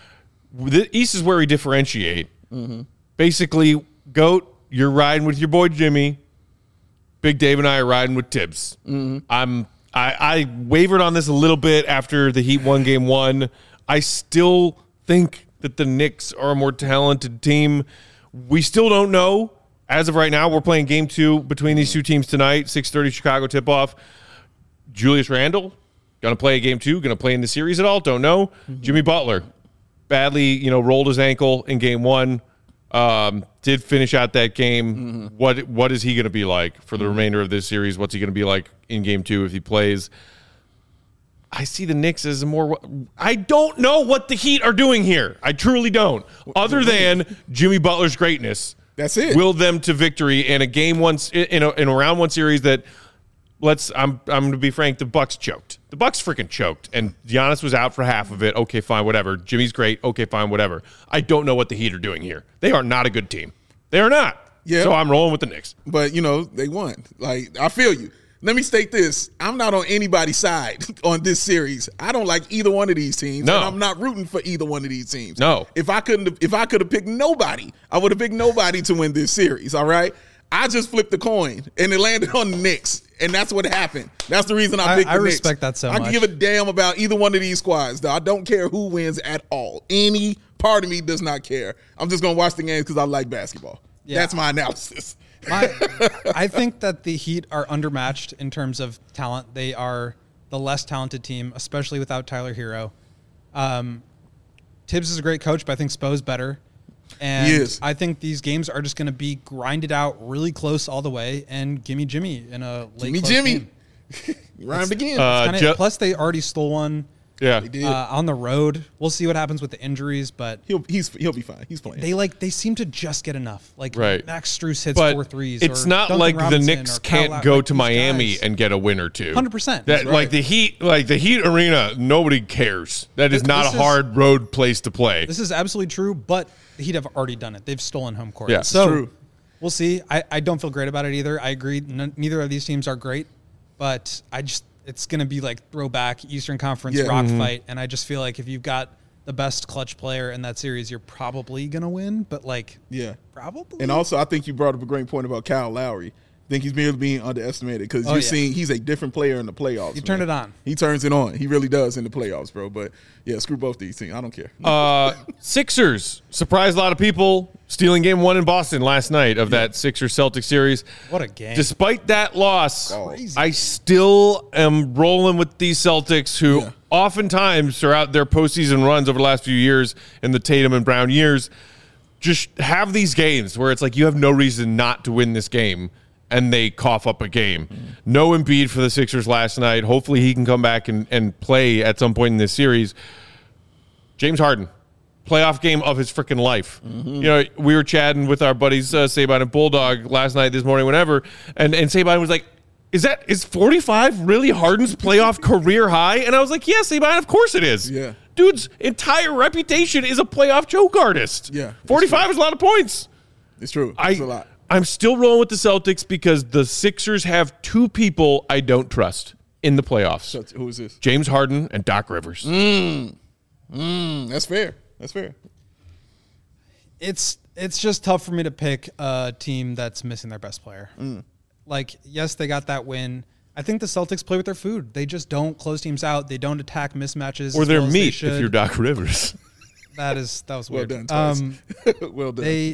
Speaker 1: The East is where we differentiate.
Speaker 2: Mm-hmm.
Speaker 1: Basically, GOAT, you're riding with your boy Jimmy. Big Dave and I are riding with Tibbs.
Speaker 2: Mm-hmm.
Speaker 1: I'm I, I wavered on this a little bit after the Heat won game one. I still think that the Knicks are a more talented team. We still don't know. As of right now, we're playing game two between these two teams tonight, six thirty Chicago tip-off. Julius Randle, going to play a game two, going to play in the series at all? Don't know. Mm-hmm. Jimmy Butler, badly, you know, rolled his ankle in game one. Um, did finish out that game. Mm-hmm. What What is he going to be like for the mm-hmm. remainder of this series? What's he going to be like in game two if he plays? I see the Knicks as a more – I don't know what the Heat are doing here. I truly don't. Other than Jimmy Butler's greatness.
Speaker 2: That's it.
Speaker 1: Will them to victory in a game one in a, in a round one series that let's I'm I'm going to be frank, the Bucks choked. The Bucks freaking choked, and Giannis was out for half of it. Okay, fine, whatever. Jimmy's great. Okay, fine, whatever. I don't know what the Heat are doing here. They are not a good team. They are not.
Speaker 2: Yeah.
Speaker 1: So I'm rolling with the Knicks.
Speaker 2: But, you know, they won. Like, I feel you. Let me state this. I'm not on anybody's side on this series. I don't like either one of these teams.
Speaker 1: No.
Speaker 2: And I'm not rooting for either one of these teams.
Speaker 1: No.
Speaker 2: If I couldn't have, if I could have picked nobody, I would have picked nobody to win this series, all right? I just flipped the coin and it landed on the Knicks. And that's what happened. That's the reason I
Speaker 3: I-
Speaker 2: picked
Speaker 3: I
Speaker 2: the Knicks.
Speaker 3: respect that so
Speaker 2: I
Speaker 3: much.
Speaker 2: can give a damn about either one of these squads. Though. I don't care who wins at all. Any part of me does not care. I'm just going to watch the games because I like basketball.
Speaker 3: Yeah.
Speaker 2: That's my analysis.
Speaker 3: My, I think that the Heat are undermatched in terms of talent. They are the less talented team, especially without Tyler Hero. Um, Tibbs is a great coach, but I think Spo's better. And
Speaker 2: He is.
Speaker 3: I think these games are just going to be grinded out really close all the way and gimme Jimmy in a late
Speaker 2: Gimme
Speaker 3: close
Speaker 2: Jimmy.
Speaker 3: game.
Speaker 2: You rhymed again.
Speaker 1: Uh,
Speaker 3: Kinda-
Speaker 1: Ju-
Speaker 3: plus, they already stole one
Speaker 1: Yeah.
Speaker 2: They did.
Speaker 3: Uh, on the road, we'll see what happens with the injuries, but
Speaker 2: he'll he's he'll be fine. He's playing.
Speaker 3: they like they seem to just get enough. Like
Speaker 1: Right.
Speaker 3: Max Strus hits
Speaker 1: But
Speaker 3: four threes.
Speaker 1: it's
Speaker 3: or
Speaker 1: not
Speaker 3: Duncan
Speaker 1: like
Speaker 3: Robinson
Speaker 1: the Knicks
Speaker 3: or Kyle
Speaker 1: can't
Speaker 3: Lowry.
Speaker 1: go
Speaker 3: Like,
Speaker 1: to
Speaker 3: these
Speaker 1: Miami
Speaker 3: guys-
Speaker 1: and get a win or two.
Speaker 3: one hundred percent.
Speaker 1: That
Speaker 2: right.
Speaker 1: like the Heat, like the Heat arena, nobody cares. That is
Speaker 3: This-
Speaker 1: not
Speaker 3: this
Speaker 1: a
Speaker 3: is-
Speaker 1: hard road place to play.
Speaker 3: This is absolutely true, but the Heat have already done it. They've stolen home court.
Speaker 1: Yeah, it's
Speaker 3: so
Speaker 2: true.
Speaker 3: we'll see. I, I don't feel great about it either. I agree. N- neither of these teams are great, but I just it's going to be like throwback Eastern Conference
Speaker 2: Yeah.
Speaker 3: rock
Speaker 1: Mm-hmm.
Speaker 3: fight, and I just feel like if you've got the best clutch player in that series, you're probably going to win. But like,
Speaker 2: yeah.
Speaker 3: probably.
Speaker 2: And also, I think you brought up a great point about Kyle Lowry. I think he's being, being underestimated because
Speaker 3: Oh,
Speaker 2: you're
Speaker 3: yeah.
Speaker 2: seeing he's a different player in the playoffs.
Speaker 3: You turn
Speaker 2: man.
Speaker 3: it on.
Speaker 2: He turns it on. He really does in the playoffs, bro. But yeah, screw both these teams. I don't care.
Speaker 1: Uh, Sixers surprised a lot of people, stealing game one in Boston last night of that Sixers Celtics series.
Speaker 3: What a game.
Speaker 1: Despite that loss,
Speaker 2: Crazy
Speaker 1: I still am rolling with these Celtics who
Speaker 2: Yeah.
Speaker 1: oftentimes throughout their postseason runs over the last few years in the Tatum and Brown years just have these games where it's like you have no reason not to win this game, and they cough up a game. No Embiid for the Sixers last night. Hopefully he can come back and, and play at some point in this series. James Harden, playoff game of his freaking life. You know, we were chatting with our buddies uh, Saban and Bulldog last night, this morning, whenever, and, and Saban was like, is that is forty-five really Harden's playoff career high? And I was like, yeah, Saban, of course it is.
Speaker 2: Yeah.
Speaker 1: Dude's entire reputation is a playoff choke artist.
Speaker 2: Yeah, it's
Speaker 1: forty-five is a lot of points.
Speaker 2: It's true.
Speaker 1: I,
Speaker 2: It's a lot.
Speaker 1: I'm still rolling with the Celtics because the Sixers have two people I don't trust in the playoffs.
Speaker 2: So, who is this?
Speaker 1: James Harden and Doc Rivers.
Speaker 2: Mm, that's fair. That's fair.
Speaker 3: it's it's just tough for me to pick a team that's missing their best player.
Speaker 2: Mm.
Speaker 3: Like, yes, they got that win. I think the Celtics play with their food. They just don't close teams out. They don't attack mismatches.
Speaker 1: Or
Speaker 3: as
Speaker 1: their
Speaker 3: well as they
Speaker 1: meat if
Speaker 3: should.
Speaker 1: you're Doc Rivers.
Speaker 3: That is that was
Speaker 2: Well
Speaker 3: weird.
Speaker 2: done, Tice.
Speaker 3: Um,
Speaker 2: Well done.
Speaker 3: they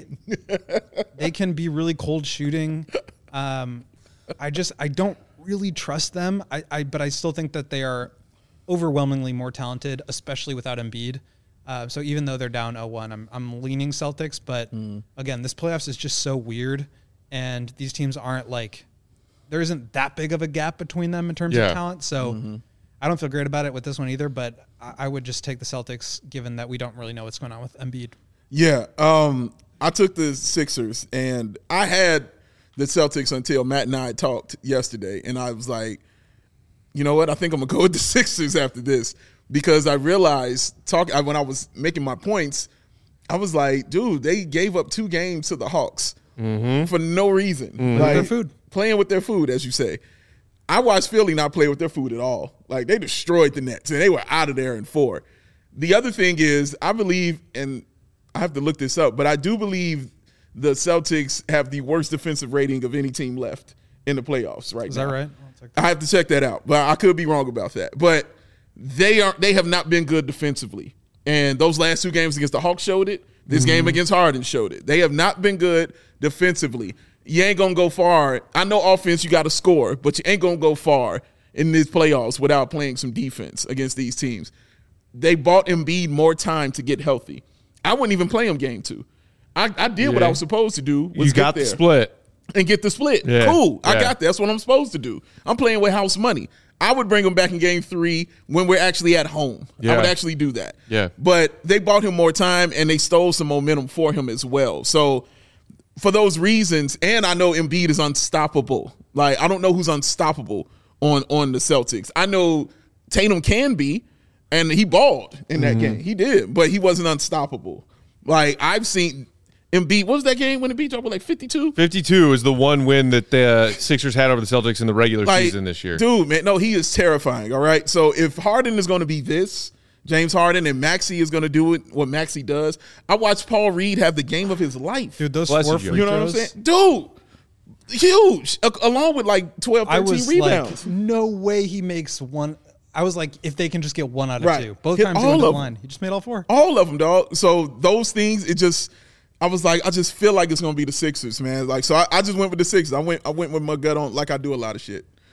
Speaker 3: they can be really cold shooting. Um, I just I don't really trust them. I, I but I still think that they are overwhelmingly more talented, especially without Embiid. Uh, so even though they're down oh one, I'm I'm leaning Celtics. But again, this playoffs is just so weird, and these teams aren't like there isn't that big of a gap between them in terms
Speaker 1: Yeah.
Speaker 3: of talent. So. I don't feel great about it with this one either, but I I would just take the Celtics given that we don't really know what's going on with Embiid.
Speaker 2: Yeah, um, I took the Sixers, and I had the Celtics until Matt and I talked yesterday, and I was like, you know what? I think I'm gonna go with the Sixers after this because I realized talk when I was making my points, I was like, dude, they gave up two games to the Hawks for no reason,
Speaker 1: Mm-hmm.
Speaker 2: like
Speaker 3: their food.
Speaker 2: playing with their food, as you say. I watched Philly not play with their food at all. Like, they destroyed the Nets, and they were out of there in four. The other thing is, I believe, and I have to look this up, but I do believe the Celtics have the worst defensive rating of any team left in the playoffs right
Speaker 3: Is
Speaker 2: now.
Speaker 3: that right?
Speaker 2: I have to check that out, but I could be wrong about that. But they are they have not been good defensively. And those last two games against the Hawks showed it. This
Speaker 3: Mm-hmm.
Speaker 2: game against Harden showed it. They have not been good defensively. You ain't going to go far. I know offense, you got to score, but you ain't going to go far in these playoffs without playing some defense against these teams. They bought Embiid more time to get healthy. I wouldn't even play him game two. I, I did what
Speaker 1: Yeah.
Speaker 2: I was supposed to do. Was
Speaker 1: You got
Speaker 2: get
Speaker 1: the
Speaker 2: there
Speaker 1: split.
Speaker 2: and get the split.
Speaker 1: Yeah.
Speaker 2: Cool. I
Speaker 1: Yeah.
Speaker 2: got that. That's what I'm supposed to do. I'm playing with house money. I would bring him back in game three when we're actually at home.
Speaker 1: Yeah.
Speaker 2: I would actually do that.
Speaker 1: Yeah.
Speaker 2: But they bought him more time and they stole some momentum for him as well. So for those reasons, and I know Embiid is unstoppable. Like, I don't know who's unstoppable on, on the Celtics. I know Tatum can be, and he balled in that game. He did, but he wasn't unstoppable. Like, I've seen Embiid. What was that game when Embiid dropped with like fifty-two?
Speaker 1: fifty-two is the one win that the Sixers had over the Celtics in the regular
Speaker 2: Like,
Speaker 1: season this year.
Speaker 2: Dude, man, no, he is terrifying, all right? So if Harden is going to be this, James Harden, and Maxey is going to do it, what Maxey does, I watched Paul Reed have the game of his life.
Speaker 3: Dude, those
Speaker 1: Bless
Speaker 3: four
Speaker 1: you, Joe.
Speaker 3: free
Speaker 2: you know what I'm
Speaker 3: throws,
Speaker 2: saying? Dude, huge, a- along with like twelve,
Speaker 3: I
Speaker 2: thirteen
Speaker 3: was
Speaker 2: rebounds.
Speaker 3: like, no way he makes one. I was like, if they can just get one out of
Speaker 2: Right.
Speaker 3: two. Both
Speaker 2: Hit
Speaker 3: times he
Speaker 2: all
Speaker 3: went to the
Speaker 2: of 'em.
Speaker 3: line. He just made all four.
Speaker 2: All of them, dog. So those things, it just, I was like, I just feel like it's going to be the Sixers, man. Like, so I, I just went with the Sixers. I went I went with my gut on, like I do a lot of shit.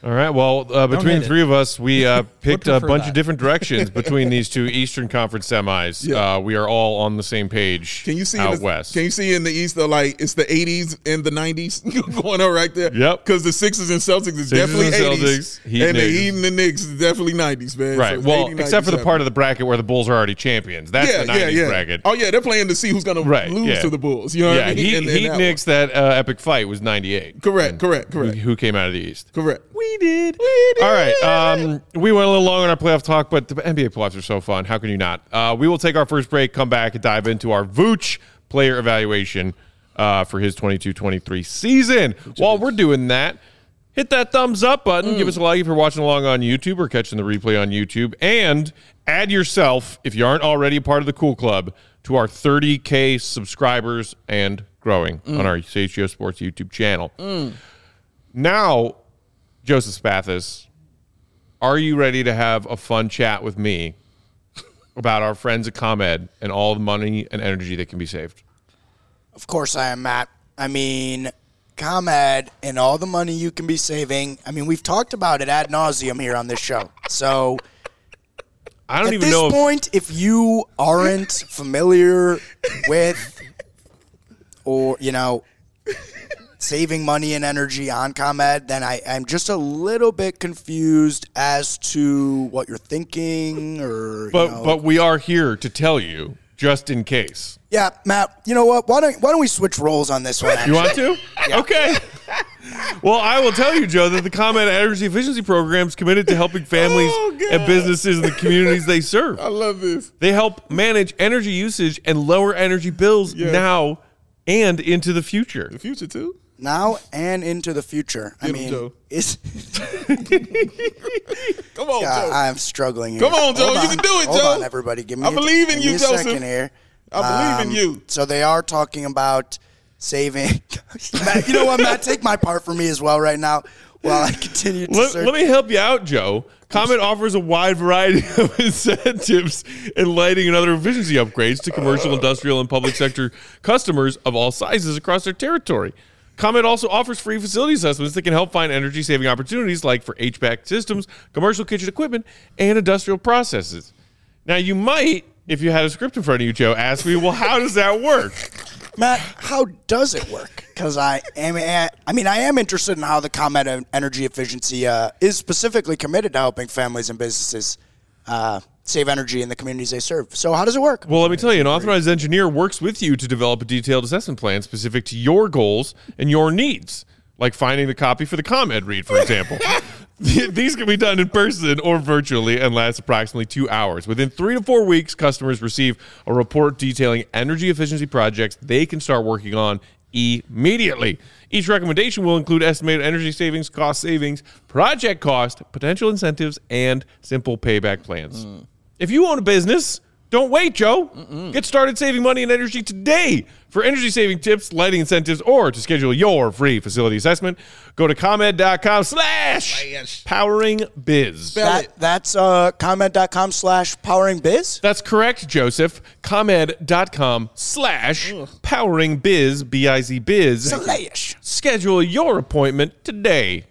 Speaker 1: All right. Well, uh, between
Speaker 3: hate
Speaker 1: the three
Speaker 3: it.
Speaker 1: of us, we uh, picked a
Speaker 3: prefer
Speaker 1: bunch
Speaker 3: that.
Speaker 1: of different directions between these two Eastern Conference semis.
Speaker 2: Yeah.
Speaker 1: Uh, we are all on the same page.
Speaker 2: Can you see
Speaker 1: out
Speaker 2: in the,
Speaker 1: west?
Speaker 2: Can you see in the East though, like it's the eighties and the nineties going on right there?
Speaker 1: Yep.
Speaker 2: Because the Sixers and Celtics is
Speaker 1: Sixers
Speaker 2: definitely
Speaker 1: and
Speaker 2: eighties,
Speaker 1: Celtics, Heat
Speaker 2: and the
Speaker 1: Knicks.
Speaker 2: Heat and the Knicks is definitely nineties, man.
Speaker 1: Right.
Speaker 2: So it's
Speaker 1: well,
Speaker 2: eighty,
Speaker 1: except for the
Speaker 2: ninety-seven.
Speaker 1: part of the bracket where the Bulls are already champions. That's
Speaker 2: yeah,
Speaker 1: the nineties
Speaker 2: yeah, yeah.
Speaker 1: bracket.
Speaker 2: Oh yeah, they're playing to see who's going
Speaker 1: Right,
Speaker 2: to lose
Speaker 1: yeah.
Speaker 2: to the Bulls. You know what
Speaker 1: yeah,
Speaker 2: I mean?
Speaker 1: Heat,
Speaker 2: And- and
Speaker 1: Heat
Speaker 2: that
Speaker 1: Knicks, that uh, epic fight was ninety-eight.
Speaker 2: one. Correct, correct, correct,
Speaker 1: Who came out of the East?
Speaker 2: correct.
Speaker 1: We did. We did. All right. Um, we went a little long on our playoff talk, but the N B A playoffs are so fun. How can you not? Uh, we will take our first break, come back, and dive into our Vooch player evaluation uh, for his twenty-two twenty-three season. While we're doing that, hit that thumbs up button. Give us a like if you're watching along on YouTube or catching the replay on YouTube. And add yourself, if you aren't already a part of the Cool Club, to our thirty K subscribers and growing on our C H G O Sports YouTube channel. Now, Joseph Spathis, are you ready to have a fun chat with me about our friends at ComEd and all the money and energy that can be saved?
Speaker 4: Of course I am, Matt. I mean, ComEd and all the money you can be saving. I mean, we've talked about it ad nauseum here on this show. So
Speaker 1: I don't
Speaker 4: at
Speaker 1: even
Speaker 4: this
Speaker 1: know if,
Speaker 4: point, if you aren't familiar with or, you know, saving money and energy on ComEd, then I, I'm just a little bit confused as to what you're thinking or,
Speaker 1: but
Speaker 4: you know.
Speaker 1: but we are here to tell you just in case.
Speaker 4: Yeah, Matt, you know what? Why don't, why don't we switch roles on this one,
Speaker 1: You
Speaker 4: actually?
Speaker 1: want to? Okay. Well, I will tell you, Joe, that the ComEd Energy Efficiency Program is committed to helping families
Speaker 2: Oh, God.
Speaker 1: and businesses in the communities they serve.
Speaker 2: I love this.
Speaker 1: They help manage energy usage and lower energy bills
Speaker 2: Yeah.
Speaker 1: now and into the future.
Speaker 2: The future too.
Speaker 4: Now and into the future. I
Speaker 2: Get him,
Speaker 4: mean,
Speaker 2: Joe.
Speaker 4: is
Speaker 2: Come on,
Speaker 4: God,
Speaker 2: Joe.
Speaker 4: I'm struggling here.
Speaker 2: Come on, Joe.
Speaker 4: Hold
Speaker 2: You can do it,
Speaker 4: Hold
Speaker 2: Joe.
Speaker 4: on, everybody. Give me
Speaker 2: I
Speaker 4: a,
Speaker 2: believe in
Speaker 4: give
Speaker 2: you,
Speaker 4: me a
Speaker 2: Joseph.
Speaker 4: second here.
Speaker 2: I believe in you.
Speaker 4: So they are talking about saving. Matt, you know what, Matt? Take my part for me as well right now while I continue to
Speaker 1: Let,
Speaker 4: search.
Speaker 1: let me help you out, Joe. ComEd offers a wide variety of incentives in lighting and other efficiency upgrades to commercial, industrial, and public sector customers of all sizes across their territory. ComEd also offers free facility assessments that can help find energy-saving opportunities like for H V A C systems, commercial kitchen equipment, and industrial processes. Now, you might, if you had a script in front of you, Joe, ask me, well, how does that work?
Speaker 4: Matt, how does it work? Because I am, I mean, I am interested in how the ComEd Energy Efficiency uh, is specifically committed to helping families and businesses uh, save energy in the communities they serve. So how does it work?
Speaker 1: Well, let me tell you, an authorized engineer works with you to develop a detailed assessment plan specific to your goals and your needs, like finding the copy for the ComEd read, for example. These can be done in person or virtually and last approximately two hours. Within three to four weeks, customers receive a report detailing energy efficiency projects they can start working on immediately. Each recommendation will include estimated energy savings, cost savings, project cost, potential incentives, and simple payback plans. Mm. If you own a business, don't wait, Joe. Mm-mm. Get started saving money and energy today. For energy saving tips, lighting incentives, or to schedule your free facility assessment, go to ComEd.com slash powering biz.
Speaker 4: That, that's uh, ComEd.com slash powering biz?
Speaker 1: That's correct, Joseph. ComEd.com slash powering biz, B I Z biz.
Speaker 4: Slash.
Speaker 1: Schedule your appointment today.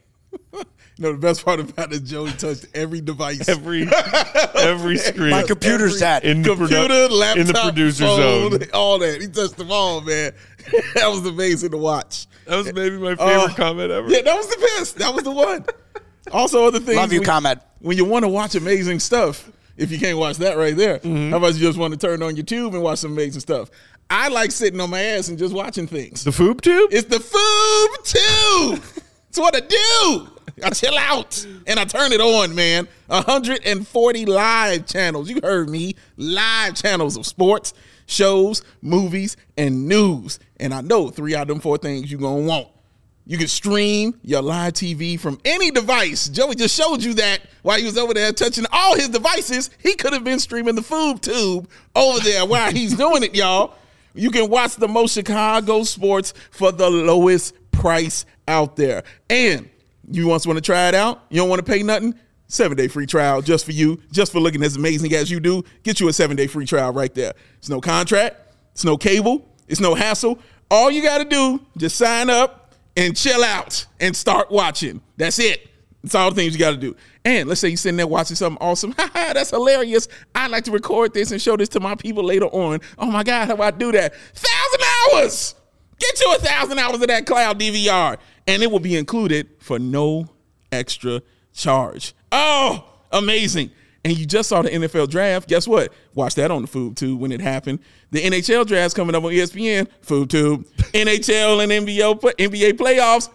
Speaker 2: No, the best part about it, Joey touched every device.
Speaker 1: Every every screen.
Speaker 4: My computer's that.
Speaker 1: in the
Speaker 2: Computer,
Speaker 1: produ-
Speaker 2: laptop,
Speaker 1: in the producer
Speaker 2: phone,
Speaker 1: zone.
Speaker 2: all that. He touched them all, man. That was amazing to watch.
Speaker 1: That was maybe my favorite
Speaker 2: Uh,
Speaker 1: comment ever.
Speaker 2: Yeah, that was the best. That was the one. Also, other things.
Speaker 4: Love you,
Speaker 2: when,
Speaker 4: ComEd.
Speaker 2: When you want to watch amazing stuff, if you can't watch that right there,
Speaker 1: Mm-hmm.
Speaker 2: how about you just want to turn on your tube and watch some amazing stuff? I like sitting on my ass and just watching things.
Speaker 1: The Foob Tube?
Speaker 2: It's the Foob Tube. It's what I do. I chill out and I turn it on, man. one hundred forty live channels. You heard me. Live channels of sports, shows, movies, and news. And I know three out of them four things you're going to want. You can stream your live T V from any device. Joey just showed you that while he was over there touching all his devices. He could have been streaming the Foob Tube over there while he's doing it, y'all. You can watch the most Chicago sports for the lowest price out there. And you once want to try it out? You don't want to pay nothing? Seven-day free trial just for you, just for looking as amazing as you do. Get you a seven-day free trial right there. It's no contract. It's no cable. It's no hassle. All you got to do, just sign up and chill out and start watching. That's it. It's all the things you got to do. And let's say you're sitting there watching something awesome. Ha ha, that's hilarious. I'd like to record this and show this to my people later on. Oh my God, how do I do that? Thousand hours. Get you a thousand hours of that cloud D V R, and it will be included for no extra charge. Oh, amazing. And you just saw the N F L draft. Guess what? Watch that on the FoodTube when it happened. The N H L draft's coming up on E S P N. FoodTube. N H L and N B A, N B A playoffs.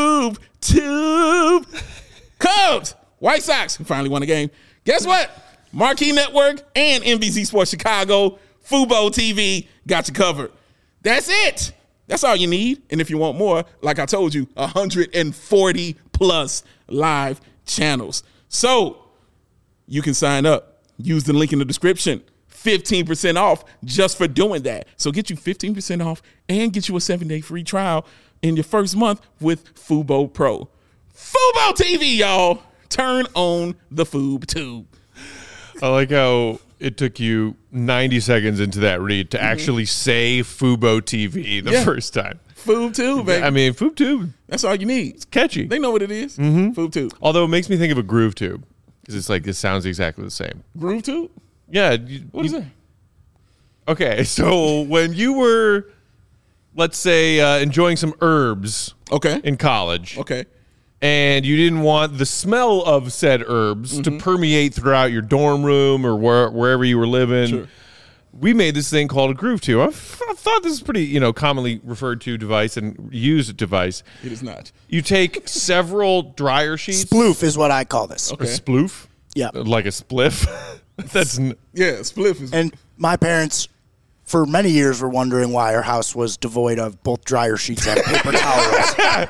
Speaker 2: FoodTube. Cubs. White Sox finally won a game. Guess what? Marquee Network and N B C Sports Chicago, Fubo T V got you covered. That's it. That's all you need. And if you want more, like I told you, one hundred forty plus live channels. So you can sign up. Use the link in the description. fifteen percent off just for doing that. So get you fifteen percent off and get you a seven-day free trial in your first month with Fubo Pro. Fubo T V, y'all. Turn on the FoodTube.
Speaker 1: I like how it took you ninety seconds into that read to mm-hmm. actually say Fubo T V the yeah. first time.
Speaker 2: FoodTube, baby.
Speaker 1: I mean, FoodTube.
Speaker 2: That's all you need.
Speaker 1: It's catchy.
Speaker 2: They know what it is.
Speaker 1: Mm-hmm.
Speaker 2: FoodTube.
Speaker 1: Although it makes me think of a Groove Tube because it's like it sounds exactly the same.
Speaker 2: Groove Tube?
Speaker 1: Yeah. You,
Speaker 2: what
Speaker 1: you,
Speaker 2: is that?
Speaker 1: Okay, so when you were, let's say, uh, enjoying some herbs
Speaker 2: okay.
Speaker 1: in college.
Speaker 2: Okay.
Speaker 1: And you didn't want the smell of said herbs mm-hmm. to permeate throughout your dorm room or where, wherever you were living.
Speaker 2: Sure.
Speaker 1: We made this thing called a Groove Tube. I, f- I thought this is pretty, you know, commonly referred to device and used device.
Speaker 2: It is not.
Speaker 1: You take several dryer sheets.
Speaker 4: Sploof is what I call this.
Speaker 1: Okay. A sploof?
Speaker 4: Yeah.
Speaker 1: Like a spliff? That's n-
Speaker 2: yeah, spliff is.
Speaker 4: And my parents, for many years, were wondering why our house was devoid of both dryer sheets and paper towels.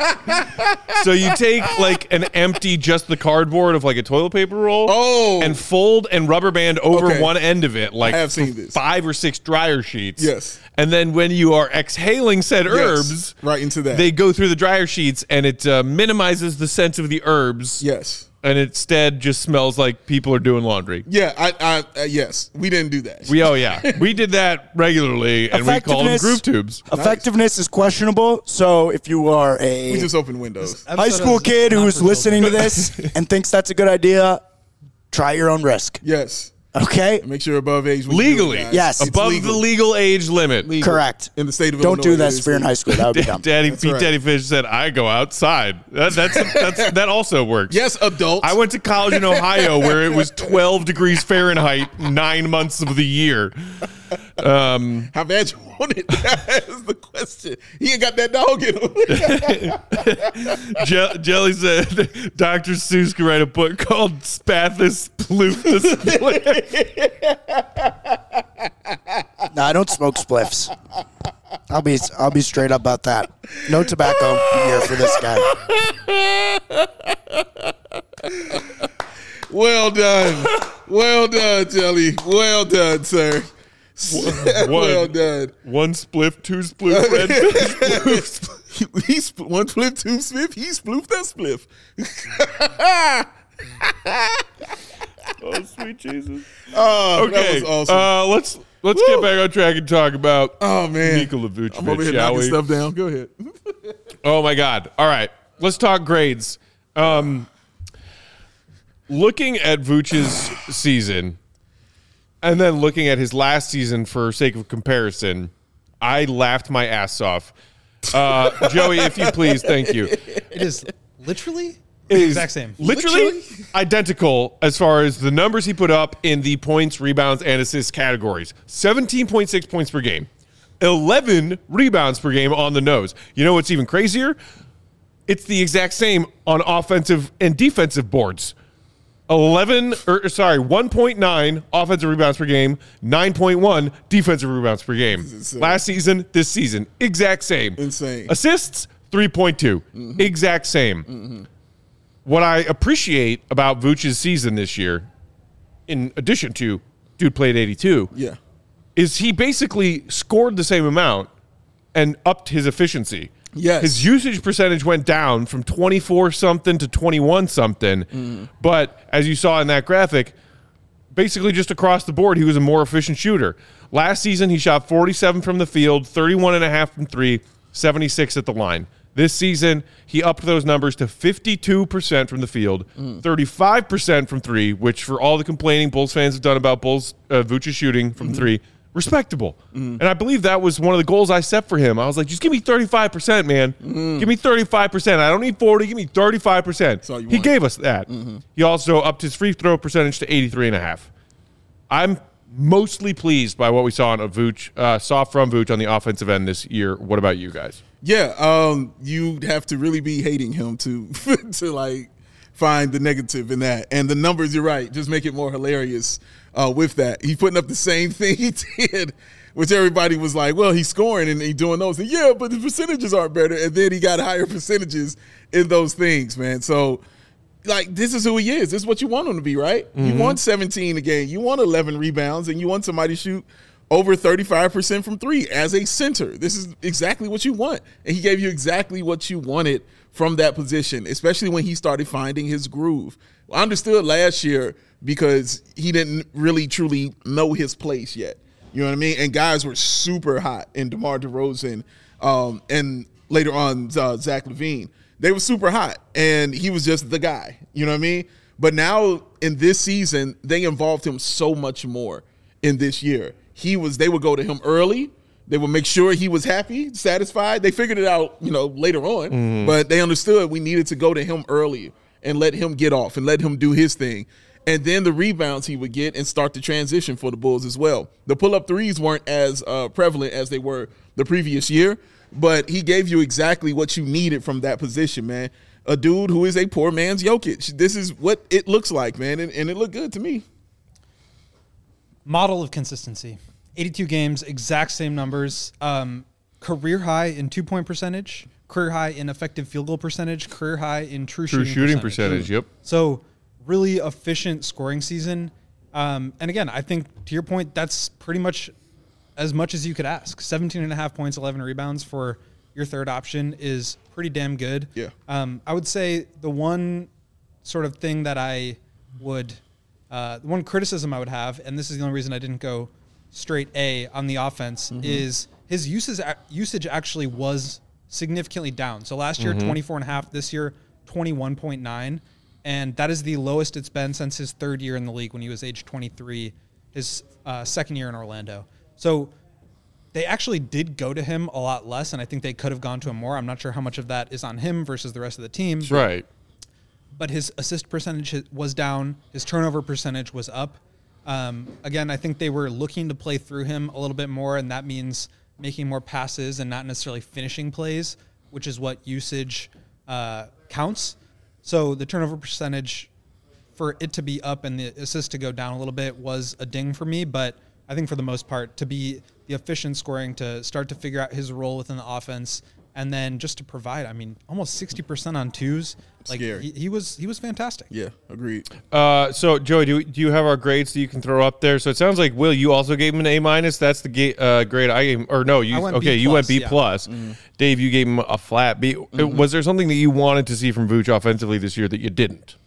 Speaker 1: So you take like an empty, just the cardboard of like a toilet paper roll,
Speaker 2: oh,
Speaker 1: and fold and rubber band over
Speaker 2: okay.
Speaker 1: one end of it, like
Speaker 2: I have seen this.
Speaker 1: five or six dryer sheets.
Speaker 2: Yes.
Speaker 1: And then when you are exhaling said
Speaker 2: yes.
Speaker 1: herbs,
Speaker 2: right into that,
Speaker 1: they go through the dryer sheets, and it uh, minimizes the scent of the herbs.
Speaker 2: Yes.
Speaker 1: And instead just smells like people are doing laundry.
Speaker 2: Yeah, I, I, uh, yes, we didn't do that.
Speaker 1: We, oh yeah, we did that regularly, and we called them Groove Tubes.
Speaker 4: Effectiveness nice. is questionable, so if you are a
Speaker 2: we just open windows.
Speaker 4: high school kid who's listening to this and thinks that's a good idea, try your own risk.
Speaker 2: Yes.
Speaker 4: Okay.
Speaker 2: Make sure you're above age.
Speaker 1: Legally,
Speaker 2: it,
Speaker 4: yes,
Speaker 2: it's
Speaker 1: above
Speaker 2: legal.
Speaker 1: the legal age limit.
Speaker 2: Legal.
Speaker 4: Correct.
Speaker 2: In the state of
Speaker 4: Don't
Speaker 2: Illinois,
Speaker 4: do that if you're in high school. That would be dumb.
Speaker 1: Daddy
Speaker 2: That's
Speaker 1: Pete
Speaker 2: right.
Speaker 1: Daddy Fish said, "I go outside." That, that's, that's that also works.
Speaker 2: Yes, adults.
Speaker 1: I went to college in Ohio where it was twelve degrees Fahrenheit nine months of the year. Um,
Speaker 2: How bad you want it? That's the question. He ain't got that dog in him.
Speaker 1: Je- Jelly said Doctor Seuss could write a book called Spathis Sploof the Spliff.
Speaker 4: No, I don't smoke spliffs. I'll be I'll be straight up about that. No tobacco here for this guy.
Speaker 2: Well done. Well done, Jelly. Well done, sir.
Speaker 1: One,
Speaker 2: well done.
Speaker 1: One spliff, two spliff, red spliff.
Speaker 2: He, he sp- one spliff, two spliff. He sploofed that spliff.
Speaker 1: Oh, sweet Jesus.
Speaker 2: Oh,
Speaker 1: okay.
Speaker 2: that was awesome.
Speaker 1: Uh, let's let's
Speaker 2: Woo.
Speaker 1: get back on track and talk about
Speaker 2: oh man,
Speaker 1: Nikola Vucevic,
Speaker 2: I'm over here
Speaker 1: shall
Speaker 2: knocking
Speaker 1: we?
Speaker 2: stuff down. Go ahead.
Speaker 1: Oh my God. All right. Let's talk grades. Um, looking at Vucevic's season and then looking at his last season for sake of comparison, I laughed my ass off. Uh, Joey, if you please, thank you.
Speaker 3: It is literally
Speaker 1: It
Speaker 3: the
Speaker 1: is
Speaker 3: exact same.
Speaker 1: Literally,
Speaker 2: Literally?
Speaker 1: identical as far as the numbers he put up in the points, rebounds, and assists categories. seventeen point six points per game. eleven rebounds per game on the nose. You know what's even crazier? It's the exact same on offensive and defensive boards. eleven, or sorry, one point nine offensive rebounds per game, nine point one defensive rebounds per game. Last season, this season, exact same.
Speaker 2: Insane.
Speaker 1: Assists, three point two. Mm-hmm. Exact same. Mm-hmm. What I appreciate about Vucevic's season this year, in addition to dude played eighty-two,
Speaker 2: Yeah.
Speaker 1: is he basically scored the same amount and upped his efficiency.
Speaker 2: Yes.
Speaker 1: His usage percentage went down from twenty-four something to twenty-one something. Mm. But as you saw in that graphic, basically just across the board, he was a more efficient shooter. Last season, he shot forty-seven from the field, thirty-one and a half from three, seventy-six at the line. This season, he upped those numbers to fifty-two percent from the field, mm. thirty-five percent from three, which for all the complaining Bulls fans have done about Bulls uh, Vooch's shooting from mm-hmm. three, respectable. Mm. And I believe that was one of the goals I set for him. I was like, just give me thirty-five percent, man. Mm. Give me thirty-five percent. I don't need forty. Give me thirty-five percent. He want. gave us that. Mm-hmm. He also upped his free throw percentage to eighty-three and a half. I'm mostly pleased by what we saw on a Vooch, uh, saw from Vooch on the offensive end this year. What about you guys?
Speaker 2: Yeah, um, you'd have to really be hating him to to like find the negative in that. And the numbers, you're right, just make it more hilarious uh, with that. He's putting up the same thing he did, which everybody was like, well, he's scoring and he's doing those. And yeah, but the percentages aren't better. And then he got higher percentages in those things, man. So, like, this is who he is. This is what you want him to be, right? Mm-hmm. You want seventeen a game. You want eleven rebounds, and you want somebody to shoot over thirty-five percent from three as a center. This is exactly what you want. And he gave you exactly what you wanted from that position, especially when he started finding his groove. I understood last year because he didn't really truly know his place yet. You know what I mean? And guys were super hot in DeMar DeRozan um, and later on uh, Zach LaVine. They were super hot, and he was just the guy. You know what I mean? But now in this season, they involved him so much more in this year. He was. They would go to him early. They would make sure he was happy, satisfied. They figured it out, you know, later on. Mm-hmm. But they understood we needed to go to him early and let him get off and let him do his thing. And then the rebounds he would get and start the transition for the Bulls as well. The pull-up threes weren't as uh, prevalent as they were the previous year, but he gave you exactly what you needed from that position, man. A dude who is a poor man's Jokic. This is what it looks like, man, and, and it looked good to me.
Speaker 3: Model of consistency. eighty-two games, exact same numbers. Um, career high in two-point percentage, career high in effective field goal percentage, career high in true,
Speaker 1: true
Speaker 3: shooting,
Speaker 1: shooting
Speaker 3: percentage.
Speaker 1: percentage. Yep.
Speaker 3: So really efficient scoring season. Um, and again, I think to your point, that's pretty much as much as you could ask. seventeen and a half points, eleven rebounds for your third option is pretty damn good.
Speaker 2: Yeah.
Speaker 3: Um, I would say the one sort of thing that I would, uh, the one criticism I would have, and this is the only reason I didn't go straight A on the offense, mm-hmm. is his usage usage actually was significantly down. So last year, mm-hmm. twenty-four and a half. This year, twenty-one point nine. And that is the lowest it's been since his third year in the league when he was age twenty-three, his uh, second year in Orlando. So they actually did go to him a lot less, and I think they could have gone to him more. I'm not sure how much of that is on him versus the rest of the team.
Speaker 1: Right.
Speaker 3: But his assist percentage was down. His turnover percentage was up. Um, again, I think they were looking to play through him a little bit more, and that means making more passes and not necessarily finishing plays, which is what usage uh, counts. So the turnover percentage, for it to be up and the assist to go down a little bit, was a ding for me. But I think for the most part, to be the efficient scoring, to start to figure out his role within the offense, and then just to provide, I mean, almost sixty percent on twos. Like he, he was he was fantastic.
Speaker 2: Yeah, agreed.
Speaker 1: Uh, so, Joey, do, do you have our grades that you can throw up there? So it sounds like, Will, you also gave him an A minus. That's the ga- uh, grade I gave him. Or no, you okay, B plus, you went B plus. Yeah. Mm-hmm. Dave, you gave him a flat B. Mm-hmm. Was there something that you wanted to see from Vooch offensively this year that you didn't?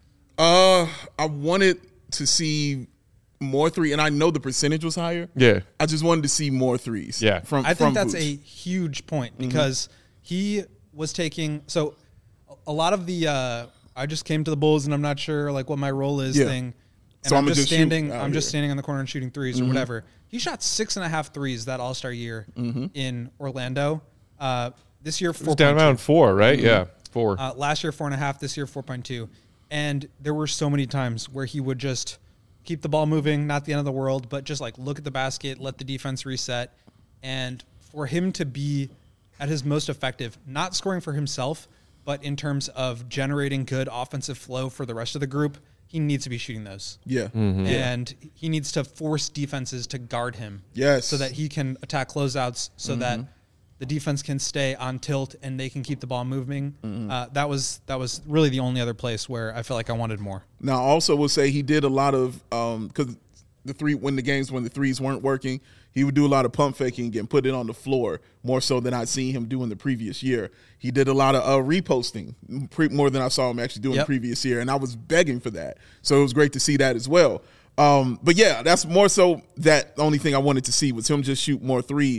Speaker 2: Uh, I wanted to see more three, and I know the percentage was higher.
Speaker 1: Yeah.
Speaker 2: I just wanted to see more threes.
Speaker 1: Yeah.
Speaker 2: From
Speaker 3: I think
Speaker 2: from
Speaker 3: that's
Speaker 2: Vooch.
Speaker 3: a huge point because mm-hmm. he was taking – so a lot of the uh, – I just came to the Bulls and I'm not sure like what my role is
Speaker 2: yeah.
Speaker 3: thing. And
Speaker 2: so
Speaker 3: I'm,
Speaker 2: I'm
Speaker 3: just standing I'm
Speaker 2: here.
Speaker 3: just standing on the corner and shooting threes mm-hmm. or whatever. He shot six and a half threes that All-Star year mm-hmm. in Orlando. Uh, this year, four.
Speaker 1: Down around four, right? Mm-hmm. Yeah, four.
Speaker 3: Uh, last year, four and a half. This year, four point two. And there were so many times where he would just keep the ball moving, not the end of the world, but just like look at the basket, let the defense reset. And for him to be at his most effective, not scoring for himself, but in terms of generating good offensive flow for the rest of the group, he needs to be shooting those.
Speaker 2: Yeah.
Speaker 1: Mm-hmm.
Speaker 3: And he needs to force defenses to guard him.
Speaker 2: Yes.
Speaker 3: So that he can attack closeouts so mm-hmm. that the defense can stay on tilt and they can keep the ball moving. Mm-hmm. Uh, that was that was really the only other place where I felt like I wanted more.
Speaker 2: Now, I also will say he did a lot of um, – because the three when the games when the threes weren't working, he would do a lot of pump faking and put it on the floor more so than I'd seen him do in the previous year. He did a lot of uh, reposting pre- more than I saw him actually doing
Speaker 3: yep.
Speaker 2: the previous year, and I was begging for that. So it was great to see that as well. Um, but, yeah, that's more so that the only thing I wanted to see was him just shoot more threes.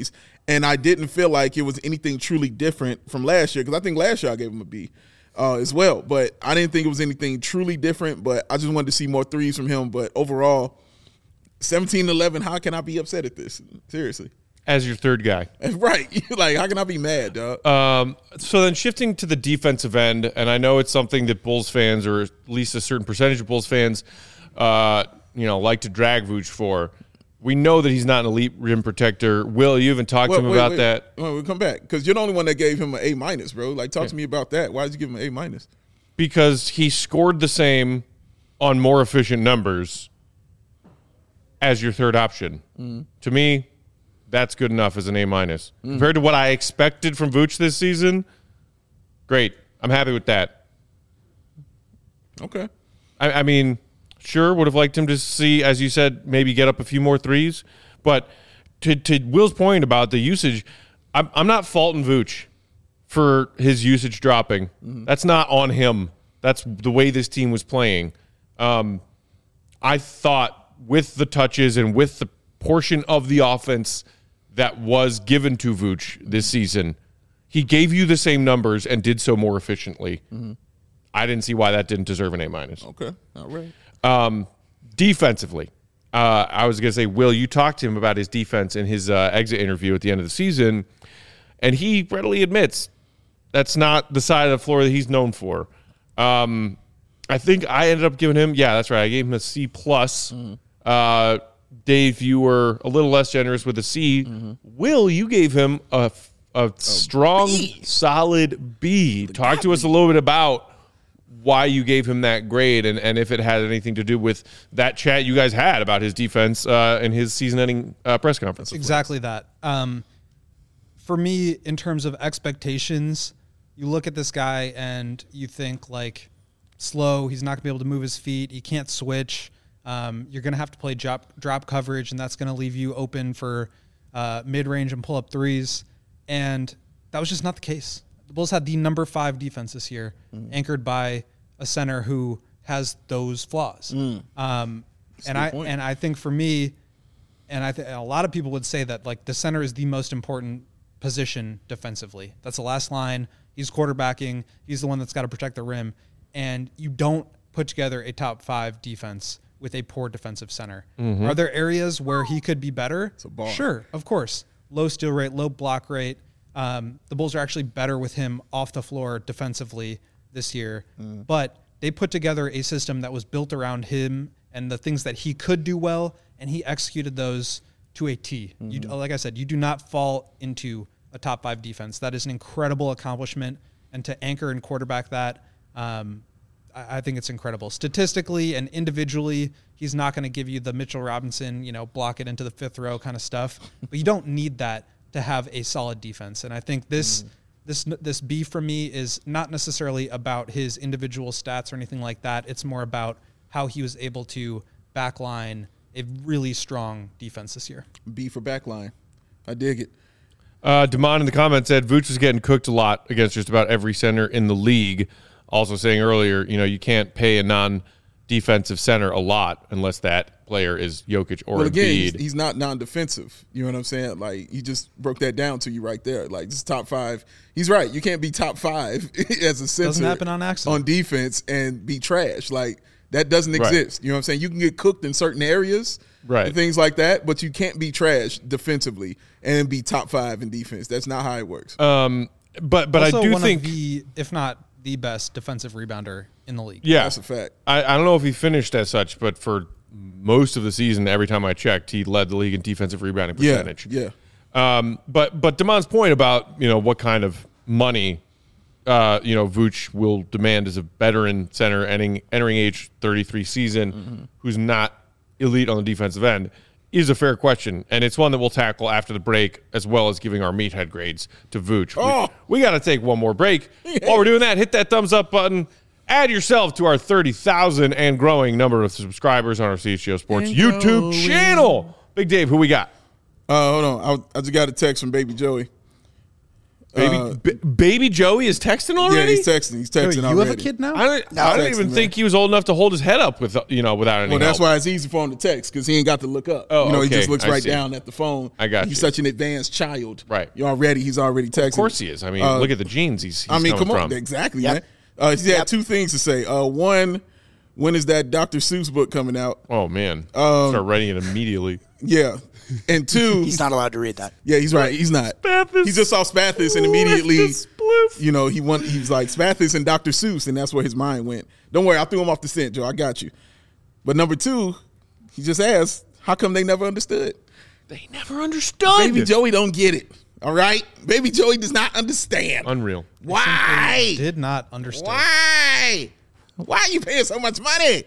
Speaker 2: And I didn't feel like it was anything truly different from last year, because I think last year I gave him a B uh, as well. But I didn't think it was anything truly different, but I just wanted to see more threes from him. But overall, seventeen eleven, how can I be upset at this? Seriously.
Speaker 1: As your third guy.
Speaker 2: Right. Like, how can I be mad, dog?
Speaker 1: Um, so then shifting to the defensive end, and I know it's something that Bulls fans, or at least a certain percentage of Bulls fans, uh, you know, like to drag Vooch for. We know that he's not an elite rim protector. Will, you even talked
Speaker 2: Well,
Speaker 1: to him
Speaker 2: wait,
Speaker 1: about
Speaker 2: wait.
Speaker 1: that?
Speaker 2: Well, we'll come back, because you're the only one that gave him an A minus, bro. Like, talk
Speaker 1: Yeah.
Speaker 2: to me about that. Why did you give him an A minus?
Speaker 1: Because he scored the same on more efficient numbers as your third option. Mm. To me, that's good enough as an A minus. Mm. Compared to what I expected from Vooch this season, great. I'm happy with that.
Speaker 2: Okay.
Speaker 1: I, I mean, sure, would have liked him to see, as you said, maybe get up a few more threes. But to, to Will's point about the usage, I'm, I'm not faulting Vooch for his usage dropping. Mm-hmm. That's not on him. That's the way this team was playing. Um, I thought with the touches and with the portion of the offense that was given to Vooch this season, he gave you the same numbers and did so more efficiently. Mm-hmm. I didn't see why that didn't deserve an A minus.
Speaker 2: Okay. All right.
Speaker 1: Um, defensively, uh, I was going to say, Will, you talked to him about his defense in his uh, exit interview at the end of the season, and he readily admits that's not the side of the floor that he's known for. Um, I think I ended up giving him, yeah, that's right. I gave him a C plus. Mm-hmm. Uh, Dave, you were a little less generous with a C. Mm-hmm. Will, you gave him a, a strong, B. solid B. Talk to us a little bit about why you gave him that grade, and, and if it had anything to do with that chat you guys had about his defense uh, in his season-ending uh, press conference.
Speaker 3: Exactly that. Um, for me, in terms of expectations, you look at this guy and you think, like, slow, he's not going to be able to move his feet, he can't switch, um, you're going to have to play drop, drop coverage, and that's going to leave you open for uh, mid-range and pull-up threes, and that was just not the case. The Bulls had the number five defense this year, mm. anchored by a center who has those flaws. Mm. Um, and I point. and I think for me, and I think a lot of people would say that, like, the center is the most important position defensively. That's the last line. He's quarterbacking. He's the one that's got to protect the rim. And you don't put together a top five defense with a poor defensive center. Mm-hmm. Are there areas where he could be better?
Speaker 2: It's a bar.
Speaker 3: Sure, of course. Low steal rate, low block rate. Um, the Bulls are actually better with him off the floor defensively this year, mm. but they put together a system that was built around him and the things that he could do well, and he executed those to a T. Mm-hmm. You, like I said, you do not fall into a top five defense. That is an incredible accomplishment, and to anchor and quarterback that, um, I, I think it's incredible. Statistically and individually, he's not going to give you the Mitchell Robinson, you know, block it into the fifth row kind of stuff, but you don't need that to have a solid defense. And I think this mm. this this B from me is not necessarily about his individual stats or anything like that. It's more about how he was able to backline a really strong defense this year.
Speaker 2: B for backline. I dig it.
Speaker 1: Uh, Damon in the comments said Vooch was getting cooked a lot against just about every center in the league. Also saying earlier, you know, you can't pay a non-defensive center a lot unless that player is Jokic or
Speaker 2: well, again,
Speaker 1: Embiid.
Speaker 2: He's, he's not non-defensive. You know what I'm saying? Like, he just broke that down to you right there. Like, this is top five. He's right. You can't be top five as a center
Speaker 3: doesn't happen on accident
Speaker 2: on defense and be trash. Like, that doesn't exist. Right. You know what I'm saying? You can get cooked in certain areas
Speaker 1: right.
Speaker 2: and things like that, but you can't be trash defensively and be top five in defense. That's not how it works.
Speaker 1: Um, but but
Speaker 3: also
Speaker 1: I do
Speaker 3: one
Speaker 1: think
Speaker 3: of the, if not the best defensive rebounder in the league.
Speaker 1: Yeah,
Speaker 2: that's a fact.
Speaker 1: I, I don't know if he finished as such, but for most of the season, every time I checked, he led the league in defensive rebounding percentage.
Speaker 2: Yeah, yeah.
Speaker 1: Um, but but Damon's point about, you know, what kind of money, uh, you know, Vooch will demand as a veteran center entering, entering age thirty-three season, mm-hmm. who's not elite on the defensive end, is a fair question, and it's one that we'll tackle after the break, as well as giving our meathead grades to Vooch.
Speaker 2: Oh.
Speaker 1: We, we got to take one more break. Yeah. While we're doing that, hit that thumbs up button. Add yourself to our thirty thousand and growing number of subscribers on our C H G O Sports
Speaker 2: and
Speaker 1: YouTube
Speaker 2: growing.
Speaker 1: channel. Big Dave, who we got?
Speaker 2: Uh, hold on. I, I just got a text from Baby Joey.
Speaker 1: Baby,
Speaker 2: Uh,
Speaker 1: B- baby Joey is texting
Speaker 2: Yeah,
Speaker 1: already.
Speaker 2: he's texting. He's texting
Speaker 3: you
Speaker 2: already.
Speaker 3: have a kid now?
Speaker 1: I don't,
Speaker 4: No,
Speaker 1: I don't
Speaker 2: texting,
Speaker 1: even
Speaker 2: man.
Speaker 1: think he was old enough to hold his head up with you know without any
Speaker 2: Well, that's
Speaker 1: help.
Speaker 2: why it's easy for him to text because he ain't got to look up.
Speaker 1: Oh,
Speaker 2: you know,
Speaker 1: okay.
Speaker 2: he just looks
Speaker 1: I
Speaker 2: right
Speaker 1: see.
Speaker 2: down at the phone.
Speaker 1: I got
Speaker 2: He's
Speaker 1: you.
Speaker 2: such an advanced child.
Speaker 1: Right.
Speaker 2: You already, he's already texting.
Speaker 1: Of course he is. I mean,
Speaker 2: Uh,
Speaker 1: look at the genes he's, he's
Speaker 2: I mean,
Speaker 1: coming
Speaker 2: come on,
Speaker 1: from.
Speaker 2: exactly,
Speaker 4: Yep.
Speaker 2: man. Uh, he had
Speaker 4: Yep.
Speaker 2: two things to say. Uh, one, when is that Doctor Seuss book coming out?
Speaker 1: Oh man,
Speaker 2: Um,
Speaker 1: start writing it immediately.
Speaker 2: Yeah, and two,
Speaker 4: He's not allowed to read that.
Speaker 2: yeah, he's right. He's not.
Speaker 1: Spathis.
Speaker 2: He just saw Spathis and immediately,
Speaker 1: Left the spliff.
Speaker 2: you know, he went. He's like Spathis and Doctor Seuss, and that's where his mind went. Don't worry, I threw him off the scent, Joe. I got you. But number two, he just asked, how come they never understood?
Speaker 1: They never understood.
Speaker 2: Baby Joey don't get it. All right, Baby Joey does not understand.
Speaker 1: Unreal.
Speaker 2: Why?
Speaker 3: Did not understand.
Speaker 2: Why? Why are you paying so much money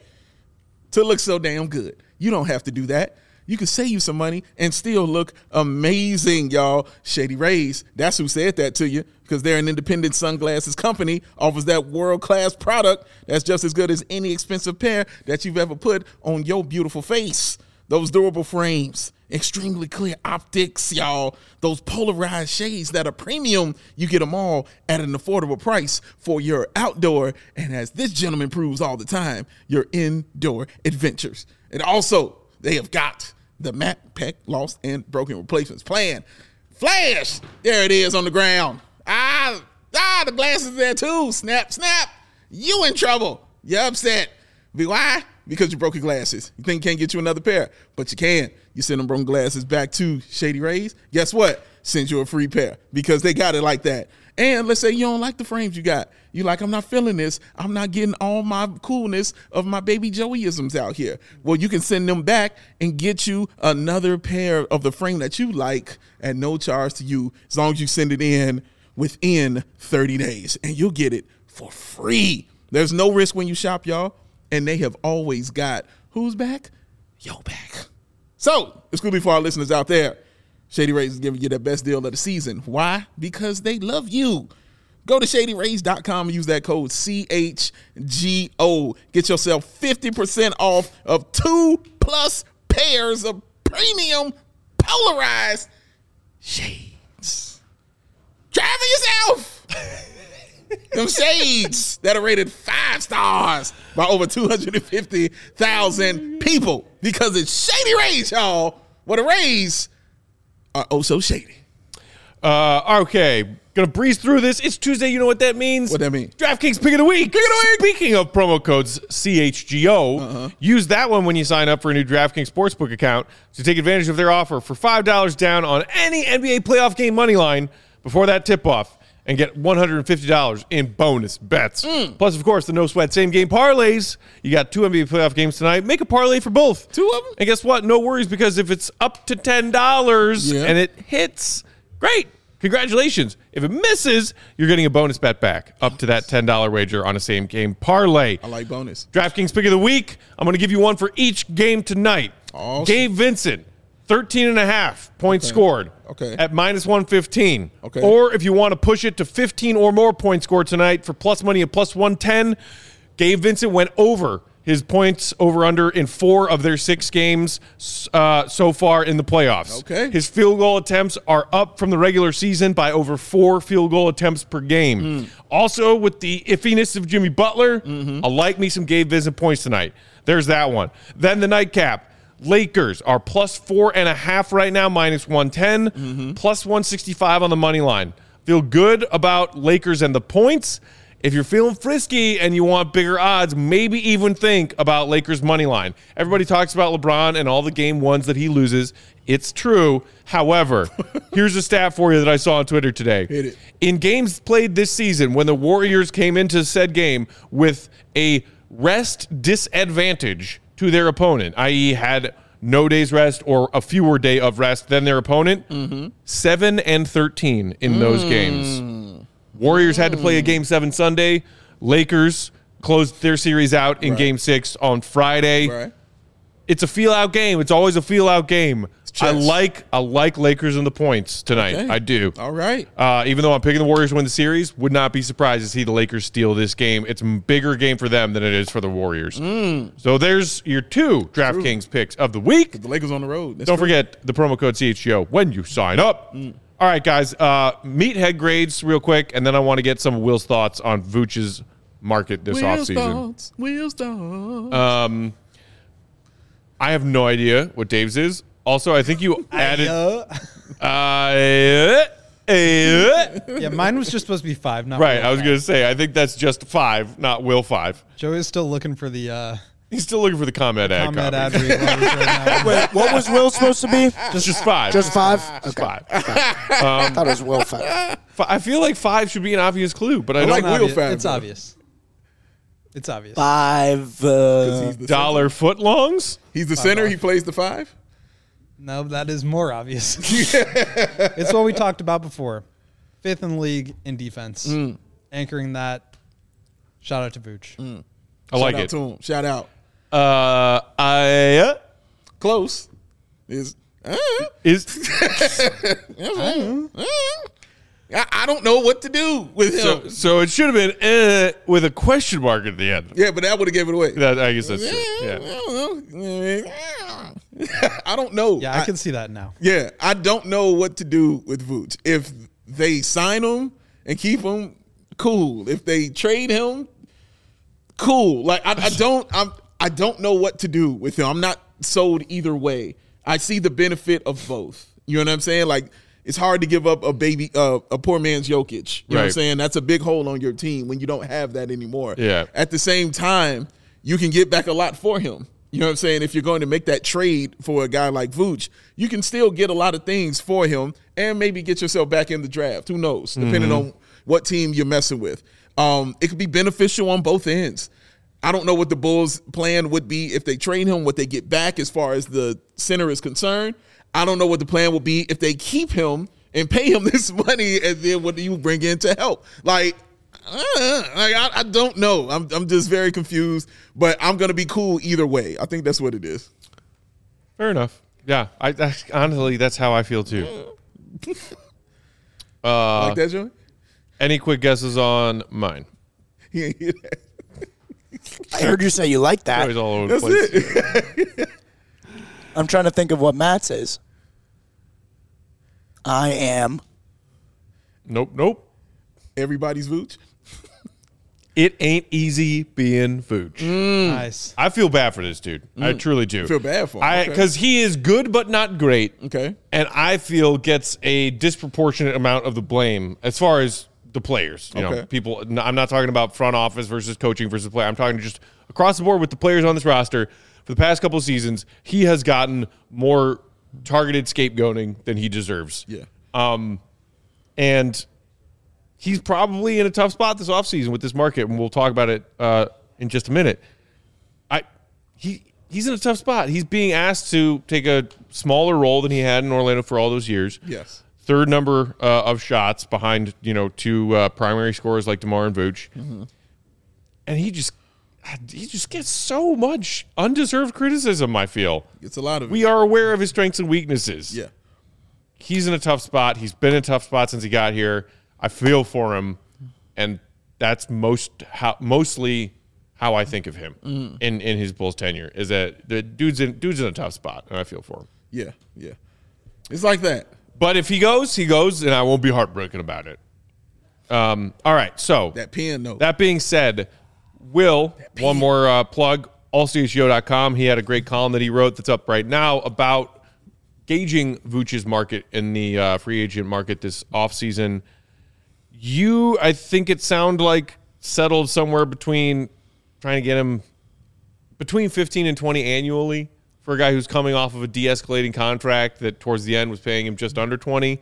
Speaker 2: to look so damn good? You don't have to do that. You can save you some money and still look amazing, y'all. Shady Rays, that's who said that to you because they're an independent sunglasses company, offers that world-class product that's just as good as any expensive pair that you've ever put on your beautiful face. Those durable frames, extremely clear optics, y'all. Those polarized shades that are premium, you get them all at an affordable price for your outdoor, and as this gentleman proves all the time, your indoor adventures. And also, they have got the Mac Pack Lost and Broken Replacements plan. Flash! There it is on the ground. Ah, ah, the glasses there too. Snap, snap. You in trouble. You're upset. Be why? Because you broke your glasses. You think you can't get you another pair, but you can. You send them broken glasses back to Shady Rays. Guess what? Send you a free pair because they got it like that. And let's say you don't like the frames you got. You like, I'm not feeling this. I'm not getting all my coolness of my Baby Joeyisms out here. Well, you can send them back and get you another pair of the frame that you like at no charge to you as long as you send it in within thirty days. And you'll get it for free. There's no risk when you shop, y'all. And they have always got who's back? Yo back. So, exclusively for our listeners out there, Shady Rays is giving you the best deal of the season. Why? Because they love you. Go to shady rays dot com and use that code C H G O. Get yourself fifty percent off of two plus pairs of premium polarized shades. Try for yourself. Them shades that are rated five stars by over two hundred fifty thousand people because it's Shady Rays, y'all. What a Rays are oh so shady.
Speaker 1: Uh, okay, gonna breeze through this. It's Tuesday. You know what that means?
Speaker 2: What that mean?
Speaker 1: DraftKings Pick of the Week. Pick of the Week. Speaking of promo codes C H G O,
Speaker 2: Uh-huh.
Speaker 1: use that one when you sign up for a new DraftKings Sportsbook account to take advantage of their offer for five dollars down on any N B A playoff game money line before that tip-off and get one hundred fifty dollars in bonus bets.
Speaker 2: Mm.
Speaker 1: Plus, of course, the no sweat same game parlays. You got two N B A playoff games tonight. Make a parlay for both.
Speaker 2: Two of them?
Speaker 1: And guess what? No worries, because if it's up to ten dollars
Speaker 2: Yeah.
Speaker 1: and it hits, great. Congratulations. If it misses, you're getting a bonus bet back up to that ten dollars wager on a same game parlay.
Speaker 2: I like bonus.
Speaker 1: DraftKings Pick of the Week. I'm going to give you one for each game tonight.
Speaker 2: Awesome.
Speaker 1: Gabe Vincent, thirteen and a half points scored.
Speaker 2: Okay.
Speaker 1: At minus one fifteen.
Speaker 2: Okay.
Speaker 1: Or if you want to push it to fifteen or more points scored tonight for plus money at plus one ten, Gabe Vincent went over his points over under in four of their six games uh, so far in the playoffs.
Speaker 2: Okay.
Speaker 1: His field goal attempts are up from the regular season by over four field goal attempts per game.
Speaker 2: Mm.
Speaker 1: Also, with the iffiness of Jimmy Butler,
Speaker 2: Mm-hmm.
Speaker 1: I like me some Gabe Vincent points tonight. There's that one. Then the nightcap. Lakers are plus four and a half right now, minus one ten,
Speaker 2: Mm-hmm.
Speaker 1: plus one sixty-five on the money line. Feel good about Lakers and the points. If you're feeling frisky and you want bigger odds, maybe even think about Lakers money line. Everybody talks about LeBron and all the game ones that he loses. It's true. However, here's a stat for you that I saw on Twitter today.
Speaker 2: Hit it.
Speaker 1: In games played this season, when the Warriors came into said game with a rest disadvantage to their opponent, that is had no day's rest or a fewer day of rest than their opponent,
Speaker 2: Mm-hmm.
Speaker 1: seven and thirteen in those
Speaker 2: Mm.
Speaker 1: games. Warriors had to play a game seven Sunday. Lakers closed their series out in
Speaker 2: Right.
Speaker 1: game six on Friday.
Speaker 2: Right.
Speaker 1: It's a feel-out game. It's always a feel-out game. I
Speaker 2: chess.
Speaker 1: like I like Lakers and the points tonight.
Speaker 2: Okay.
Speaker 1: I do.
Speaker 2: All right.
Speaker 1: Uh, even though I'm picking the Warriors to win the series, would not be surprised to see the Lakers steal this game. It's a bigger game for them than it is for the Warriors.
Speaker 2: Mm.
Speaker 1: So there's your two DraftKings picks of the week.
Speaker 2: The Lakers on the road. That's
Speaker 1: Don't
Speaker 2: true.
Speaker 1: forget the promo code C H G O when you sign up.
Speaker 2: Mm.
Speaker 1: All right, guys. Uh, meathead grades real quick, and then I want to get some of Will's thoughts on Vooch's market this
Speaker 2: Will's
Speaker 1: offseason.
Speaker 2: thoughts. Will's thoughts.
Speaker 1: Um, I have no idea what Dave's is. Also, I think you added.
Speaker 3: Uh,
Speaker 1: Uh, uh,
Speaker 3: yeah, mine was just supposed to be five, not
Speaker 1: right,
Speaker 3: Will
Speaker 1: I was
Speaker 3: five.
Speaker 1: going to say, I think that's just five, not Will five.
Speaker 3: Joe is still looking for the uh,
Speaker 1: He's still looking for the comment ad
Speaker 3: comment
Speaker 1: copy.
Speaker 3: ad read letters right now.
Speaker 4: Wait, what was Will supposed to be?
Speaker 1: Just, just five.
Speaker 4: Just five?
Speaker 1: Just
Speaker 4: Okay.
Speaker 1: five.
Speaker 4: I thought it was Will five.
Speaker 1: Fi- I feel like five should be an obvious clue, but I,
Speaker 2: I
Speaker 1: don't
Speaker 2: like
Speaker 1: like
Speaker 2: Will
Speaker 3: Obvious.
Speaker 2: Fab,
Speaker 3: It's
Speaker 2: though.
Speaker 3: obvious. It's obvious.
Speaker 4: Five. Uh,
Speaker 2: He's the
Speaker 1: dollar footlongs.
Speaker 2: He's the center. He plays the five.
Speaker 3: No, that is more obvious. It's what we talked about before. Fifth in the league in defense.
Speaker 2: Mm.
Speaker 3: Anchoring that. Shout out to Vooch.
Speaker 1: I like
Speaker 2: Shout out
Speaker 1: it.
Speaker 2: to him. Shout out.
Speaker 1: Uh, I uh,
Speaker 2: Close. Is uh,
Speaker 1: is
Speaker 2: I, I don't know what to do with him.
Speaker 1: so, so it should have been uh, with a question mark at the end.
Speaker 2: yeah, but that would have given it away.
Speaker 1: That, I guess that's true.
Speaker 2: I
Speaker 1: Yeah.
Speaker 2: don't know. I don't know.
Speaker 3: Yeah, I, can see that now.
Speaker 2: Yeah, I don't know what to do with Vooch. If they sign him and keep him, cool. If they trade him, cool. Like I, I don't, I'm, I don't know what to do with him. I'm not sold either way. I see the benefit of both. You know what I'm saying? Like it's hard to give up a baby, uh, a poor man's Jokic. You know what I'm
Speaker 1: Right.
Speaker 2: saying? That's a big hole on your team when you don't have that anymore.
Speaker 1: Yeah.
Speaker 2: At the same time, you can get back a lot for him. You know what I'm saying? If you're going to make that trade for a guy like Vooch, you can still get a lot of things for him and maybe get yourself back in the draft. Who knows? Depending
Speaker 1: Mm-hmm.
Speaker 2: on what team you're messing with. Um, it could be beneficial on both ends. I don't know what the Bulls' plan would be if they trade him, what they get back as far as the center is concerned. I don't know what the plan will be if they keep him and pay him this money, and then what do you bring in to help? Like, uh, like I, I don't know. I'm I'm just very confused, but I'm gonna be cool either way. I think that's what it is.
Speaker 1: Fair enough. Yeah, I, I honestly that's how I feel too. Uh,
Speaker 2: Like that, Joey?
Speaker 1: any quick guesses on mine?
Speaker 2: He ain't hear that.
Speaker 4: I heard you say you like that.
Speaker 1: Always all over the
Speaker 2: That's
Speaker 1: place.
Speaker 2: it.
Speaker 4: I'm trying to think of what Matt's is. I am.
Speaker 1: Nope, nope.
Speaker 2: Everybody's Vooch.
Speaker 1: It ain't easy being Vooch.
Speaker 3: Nice.
Speaker 1: I feel bad for this dude. I truly do.
Speaker 2: Mm. Feel bad for him.
Speaker 1: I
Speaker 2: Okay.
Speaker 1: because he is good but not great.
Speaker 2: Okay.
Speaker 1: And I feel gets a disproportionate amount of the blame as far as the players. You know,
Speaker 2: Okay.
Speaker 1: people. I'm not talking about front office versus coaching versus play. I'm talking just across the board with the players on this roster. For the past couple of seasons, he has gotten more targeted scapegoating than he deserves.
Speaker 2: Yeah.
Speaker 1: Um, and he's probably in a tough spot this offseason with this market, and we'll talk about it uh, in just a minute. I he he's in a tough spot. He's being asked to take a smaller role than he had in Orlando for all those years.
Speaker 2: Yes.
Speaker 1: Third number uh, of shots behind, you know, two uh, primary scorers like DeMar and Vooch.
Speaker 2: Mm-hmm.
Speaker 1: And he just he just gets so much undeserved criticism, I feel.
Speaker 2: It's a lot of it.
Speaker 1: We are aware of his strengths and weaknesses.
Speaker 2: Yeah.
Speaker 1: He's in a tough spot. He's been in a tough spot since he got here. I feel for him, and that's most how mostly how I think of him
Speaker 2: Mm.
Speaker 1: in, in his Bulls tenure is that the dude's in dude's in a tough spot, and I feel for him.
Speaker 2: Yeah. Yeah. It's like that.
Speaker 1: But if he goes, he goes, and I won't be heartbroken about it. Um, all right, so
Speaker 2: That pen note.
Speaker 1: that being said, Will, one more uh, plug, all c h g o dot com. He had a great column that he wrote that's up right now about gauging Vooch's market in the uh, free agent market this offseason. You, I think it sounded like settled somewhere between trying to get him between fifteen and twenty annually for a guy who's coming off of a de-escalating contract that towards the end was paying him just under twenty.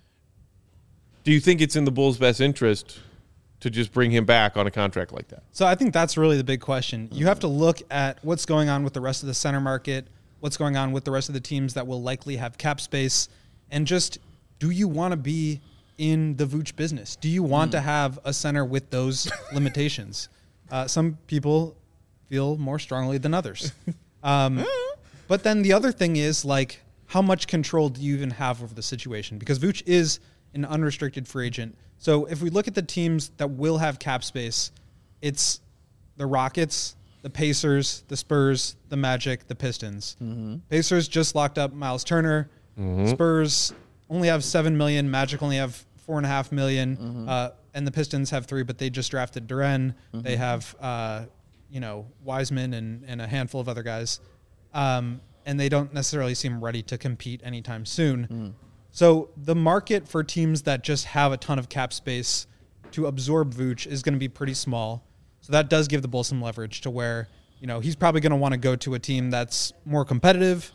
Speaker 1: Do you think it's in the Bulls' best interest to just bring him back on a contract like that?
Speaker 3: So I think that's really the big question. You have to look at what's going on with the rest of the center market, what's going on with the rest of the teams that will likely have cap space, and just do you want to be in the Vooch business? Do you want to have a center with those limitations? Uh, some people feel more strongly than others. Um, but then the other thing is, like, how much control do you even have over the situation? Because Vooch is an unrestricted free agent. So if we look at the teams that will have cap space, it's the Rockets, the Pacers, the Spurs, the Magic, the Pistons.
Speaker 2: Mm-hmm.
Speaker 3: Pacers just locked up Miles Turner.
Speaker 1: Mm-hmm.
Speaker 3: Spurs only have seven million. Magic only have four and a half million. Mm-hmm. Uh, and the Pistons have three, but they just drafted Duren. Mm-hmm. They have, uh, you know, Wiseman and, and a handful of other guys. Um, and they don't necessarily seem ready to compete anytime soon. Mm. So the market for teams that just have a ton of cap space to absorb Vooch is going to be pretty small. So that does give the Bulls some leverage to where, you know, he's probably going to want to go to a team that's more competitive,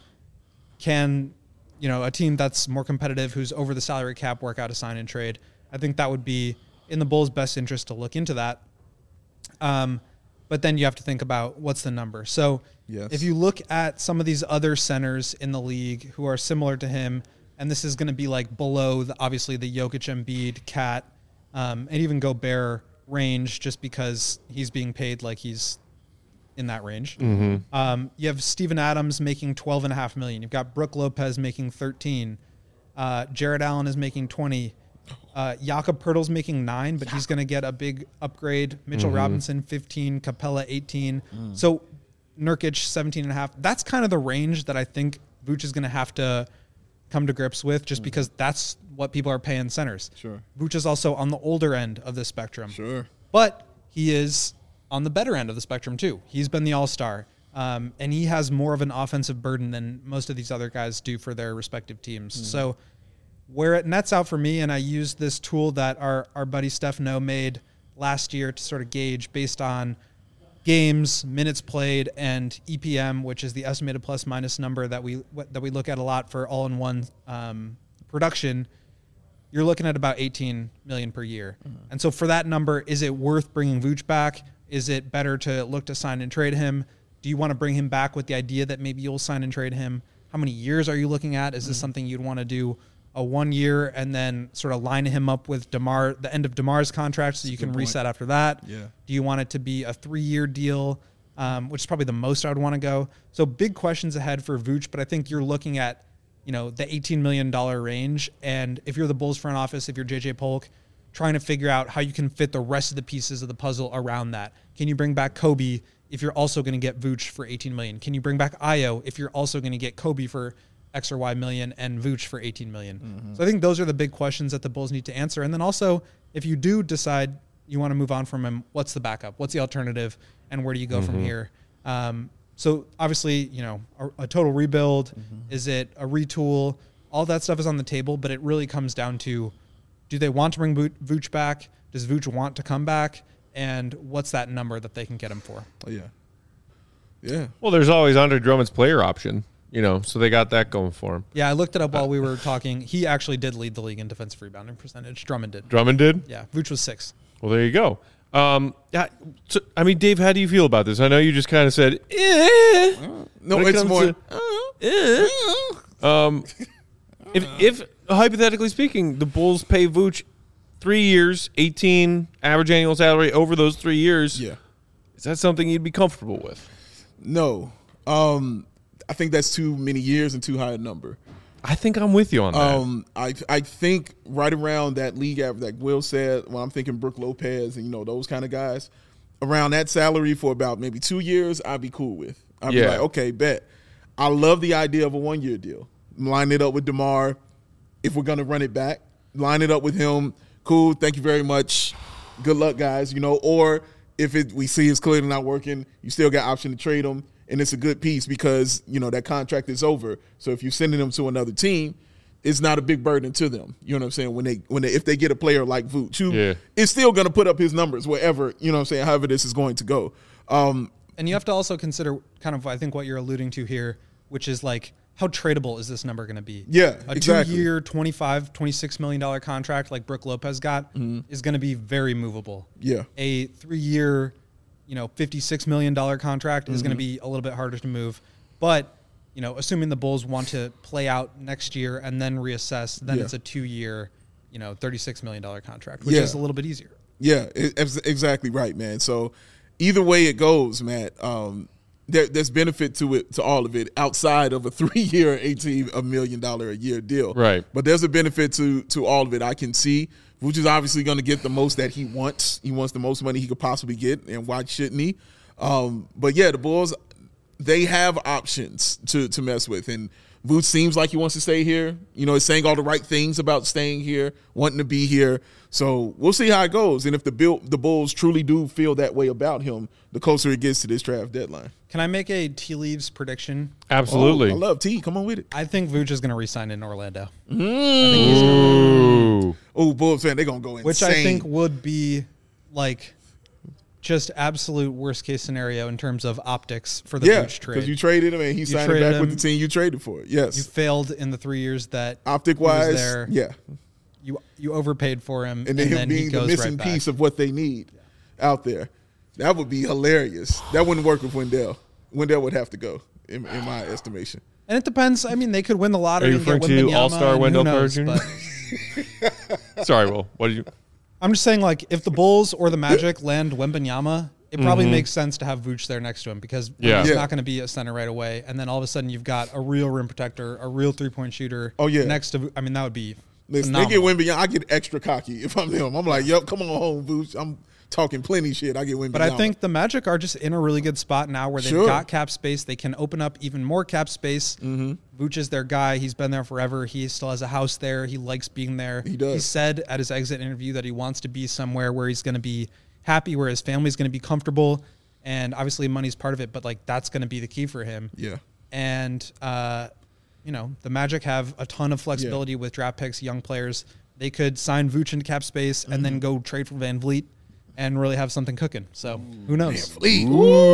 Speaker 3: can, you know, a team that's more competitive who's over the salary cap, work out a sign and trade. I think that would be in the Bulls' best interest to look into that. Um, but then you have to think about what's the number. So yes. if you look at some of these other centers in the league who are similar to him, and this is going to be like below, the, obviously, the Jokic, Embiid, Cat, um, and even Gobert range, just because he's being paid like he's in that range. Mm-hmm. Um, you have Steven Adams making twelve and a half million. You've got Brook Lopez making thirteen. Uh, Jared Allen is making twenty. Uh, Jakob Poeltl's making nine, but he's going to get a big upgrade. Mitchell mm-hmm. Robinson, fifteen. Capella, eighteen. Mm. So Nurkic, seventeen and a half. That's kind of the range that I think Vooch is going to have to come to grips with, just mm. because that's what people are paying centers.
Speaker 2: Sure.
Speaker 3: Vooch is also on the older end of the spectrum.
Speaker 2: Sure.
Speaker 3: But he is on the better end of the spectrum too. He's been the all-star. Um, and he has more of an offensive burden than most of these other guys do for their respective teams. Mm. So where it nets out for me, and I used this tool that our, our buddy Stefano made last year to sort of gauge based on games, minutes played, and E P M, which is the estimated plus minus number that we that we look at a lot for all-in-one um, production. You're looking at about eighteen million per year. Mm-hmm. And so for that number, is it worth bringing Vooch back? Is it better to look to sign and trade him? Do you want to bring him back with the idea that maybe you'll sign and trade him? How many years are you looking at? Is this mm-hmm. something you'd want to do a one year and then sort of line him up with DeMar, the end of DeMar's contract, so you can reset after that?
Speaker 2: Yeah.
Speaker 3: Do you want it to be a three-year deal, um, which is probably the most I would want to go? So big questions ahead for Vooch, but I think you're looking at, you know, the eighteen million dollars range. And if you're the Bulls front office, if you're J J Polk, trying to figure out how you can fit the rest of the pieces of the puzzle around that. Can you bring back Kobe if you're also going to get Vooch for eighteen million dollars? Can you bring back Ayo if you're also going to get Kobe for X or Y million and Vooch for eighteen million dollars? Mm-hmm. So I think those are the big questions that the Bulls need to answer. And then also, if you do decide you want to move on from him, what's the backup? What's the alternative? And where do you go mm-hmm. from here? Um, so obviously, you know, a, a total rebuild, mm-hmm. is it a retool? All that stuff is on the table, but it really comes down to, do they want to bring Vooch back? Does Vooch want to come back? And what's that number that they can get him for?
Speaker 2: Oh, yeah. Yeah.
Speaker 1: Well, there's always Andre Drummond's player option, you know, so they got that going for him.
Speaker 3: Yeah, I looked it up while we were talking. He actually did lead the league in defensive rebounding percentage. Drummond did.
Speaker 1: Drummond did?
Speaker 3: Yeah, Vooch was six.
Speaker 1: Well, there you go. Um, yeah, so, I mean, Dave, how do you feel about this? I know you just kind of said, eh.
Speaker 2: No, it's more.
Speaker 1: To, eh. um, if, if, hypothetically speaking, the Bulls pay Vooch three years, eighteen average annual salary over those three years,
Speaker 2: yeah,
Speaker 1: is that something you'd be comfortable with?
Speaker 2: No. Um, I think that's too many years and too high a number.
Speaker 1: I think I'm with you on that.
Speaker 2: Um, I I think right around that league average, like Will said, when I'm thinking Brook Lopez and, you know, those kind of guys, around that salary for about maybe two years, I'd be cool with. I'd
Speaker 1: yeah.
Speaker 2: be like, okay, bet. I love the idea of a one-year deal. Line it up with DeMar. If we're going to run it back, line it up with him. Cool, thank you very much. Good luck, guys. You know, or if it we see it's clearly not working, you still got option to trade him. And it's a good piece because, you know, that contract is over. So if you're sending them to another team, it's not a big burden to them. You know what I'm saying? When they when they if they get a player like Vooch, who
Speaker 1: yeah.
Speaker 2: is still going to put up his numbers wherever, you know what I'm saying, however this is going to go. Um,
Speaker 3: and you have to also consider kind of, I think, what you're alluding to here, which is like, how tradable is this number going to be?
Speaker 2: Yeah,
Speaker 3: a
Speaker 2: exactly.
Speaker 3: two-year, twenty-five, twenty-six million dollars contract like Brook Lopez got mm-hmm. is going to be very movable.
Speaker 2: Yeah.
Speaker 3: A three-year, you know, fifty-six million dollars contract mm-hmm. is going to be a little bit harder to move. But, you know, assuming the Bulls want to play out next year and then reassess, then yeah. it's a two-year, you know, thirty-six million dollars contract, which
Speaker 2: yeah.
Speaker 3: is a little bit easier.
Speaker 2: Yeah, it's exactly right, man. So either way it goes, Matt, um, there, there's benefit to it, to all of it, outside of a three-year, eighteen million dollars a year deal.
Speaker 1: Right.
Speaker 2: But there's a benefit to to all of it. I can see, which is obviously going to get the most that he wants. He wants the most money he could possibly get, and why shouldn't he? Um, but, yeah, the Bulls, they have options to to mess with, and Vooch seems like he wants to stay here. You know, he's saying all the right things about staying here, wanting to be here. So we'll see how it goes. And if the Bill, the Bulls truly do feel that way about him, the closer it gets to this draft deadline.
Speaker 3: Can I make a tea leaves prediction?
Speaker 1: Absolutely.
Speaker 2: Oh, I love T. Come on with it.
Speaker 3: I think Vooch is going to resign in Orlando.
Speaker 1: Ooh.
Speaker 2: Oh, Bulls fan, they're going to go insane.
Speaker 3: Which I think would be like just absolute worst case scenario in terms of optics for the
Speaker 2: yeah,
Speaker 3: Vooch trade.
Speaker 2: because you traded him and he signed
Speaker 3: traded
Speaker 2: back with
Speaker 3: him.
Speaker 2: the team you traded for it. Yes.
Speaker 3: You failed in the three years that
Speaker 2: Optic
Speaker 3: he was
Speaker 2: wise,
Speaker 3: there.
Speaker 2: yeah.
Speaker 3: You you overpaid for him,
Speaker 2: And
Speaker 3: and
Speaker 2: then
Speaker 3: then,
Speaker 2: him
Speaker 3: he
Speaker 2: being the
Speaker 3: goes
Speaker 2: missing
Speaker 3: right
Speaker 2: piece
Speaker 3: back.
Speaker 2: of what they need out there. That would be hilarious. That wouldn't work with Wendell. Wendell would have to go, in, in my estimation.
Speaker 3: And it depends. I mean, they could win the lottery
Speaker 1: Are you
Speaker 3: and get
Speaker 1: referring to
Speaker 3: Wembanyama,
Speaker 1: All-Star
Speaker 3: and who
Speaker 1: Wendell Carter
Speaker 3: knows,
Speaker 1: Junior?
Speaker 3: but
Speaker 1: Sorry, Will. What did you?
Speaker 3: I'm just saying, like, if the Bulls or the Magic land Wembanyama, it probably
Speaker 1: Mm-hmm.
Speaker 3: makes sense to have Vooch there next to him because
Speaker 1: Yeah.
Speaker 3: he's
Speaker 2: Yeah.
Speaker 3: not going to be a center right away. And then all of a sudden, you've got a real rim protector, a real three point shooter.
Speaker 2: Oh, yeah.
Speaker 3: Next to, I mean, that would be.
Speaker 2: Listen, they get
Speaker 3: phenomenal.
Speaker 2: Wembanyama. I get extra cocky if I'm them. I'm like, yep, come on home, Vooch. I'm talking plenty shit. I get Wembanyama.
Speaker 3: But I think the Magic are just in a really good spot now where they've
Speaker 2: Sure.
Speaker 3: got cap space. They can open up even more cap space. Mm-hmm. Vooch is their guy. He's been there forever. He still has a house there. He likes being there.
Speaker 2: He does.
Speaker 3: He said at his exit interview that he wants to be somewhere where he's going to be happy, where his family's going to be comfortable. And obviously money's part of it, but like that's going to be the key for him.
Speaker 2: Yeah.
Speaker 3: And, uh, you know, the Magic have a ton of flexibility with draft picks, young players. They could sign Vooch into cap space and
Speaker 2: Mm-hmm.
Speaker 3: then go trade for Van Vliet and really have something cooking. So who knows?
Speaker 2: Fleet.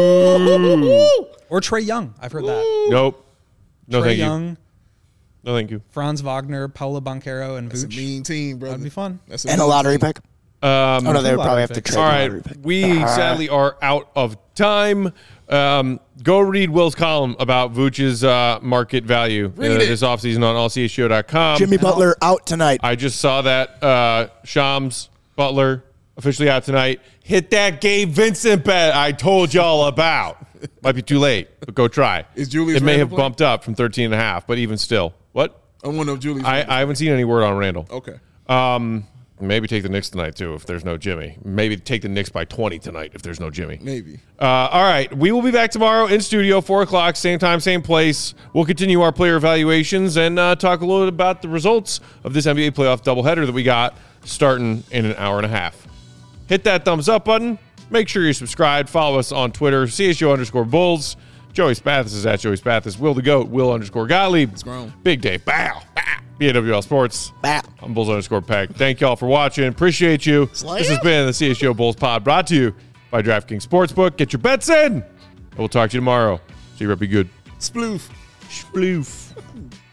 Speaker 2: Ooh.
Speaker 3: Or Trey Young. I've heard that.
Speaker 1: Nope. No,
Speaker 3: Trey
Speaker 1: thank you.
Speaker 3: Young,
Speaker 1: No, thank you.
Speaker 3: Franz Wagner, Paulo Banchero, and
Speaker 2: That's a
Speaker 3: Vooch.
Speaker 2: mean team, brother.
Speaker 3: That'd be fun.
Speaker 2: That's
Speaker 4: And a
Speaker 2: mean
Speaker 4: lottery
Speaker 2: team.
Speaker 4: pick.
Speaker 1: Um,
Speaker 4: Oh, no, they would probably have to
Speaker 3: picks.
Speaker 4: trade
Speaker 1: All
Speaker 4: the
Speaker 1: right,
Speaker 4: lottery pick.
Speaker 1: we sadly are out of time. Um, go read Will's column about Vooch's uh, market value uh,
Speaker 2: Read it.
Speaker 1: this offseason on all c h show dot com.
Speaker 4: Jimmy Butler out tonight.
Speaker 1: I just saw that uh, Shams Butler officially out tonight. Hit that Gabe Vincent bet I told y'all about. Might be too late, but go try.
Speaker 2: Is Julius
Speaker 1: It may
Speaker 2: Randle
Speaker 1: have
Speaker 2: playing?
Speaker 1: bumped up from thirteen and a half, but even still. What?
Speaker 2: I want to know Julius.
Speaker 1: I,
Speaker 2: Randle.
Speaker 1: I haven't seen any word on Randall.
Speaker 2: okay.
Speaker 1: Um, maybe take the Knicks tonight, too, if there's no Jimmy. Maybe take the Knicks by twenty tonight if there's no Jimmy.
Speaker 2: Maybe.
Speaker 1: Uh, all right. We will be back tomorrow in studio, four o'clock, same time, same place. We'll continue our player evaluations and uh, talk a little bit about the results of this N B A playoff doubleheader that we got starting in an hour and a half. Hit that thumbs up button. Make sure you're subscribed. Follow us on Twitter, C H O underscore Bulls. Joey Spathis is at Joey Spathis. Will the Goat, Will underscore Gottlieb. It's
Speaker 2: grown.
Speaker 1: Big Dave, bow, bow. B A W L Sports.
Speaker 4: Bow.
Speaker 1: I'm Bulls underscore Peg. Thank y'all for watching. Appreciate you. This has been the C H G O Bulls Pod brought to you by DraftKings Sportsbook. Get your bets in. And we'll talk to you tomorrow. See you, Rep. Be good.
Speaker 2: Sploof.
Speaker 1: Sploof.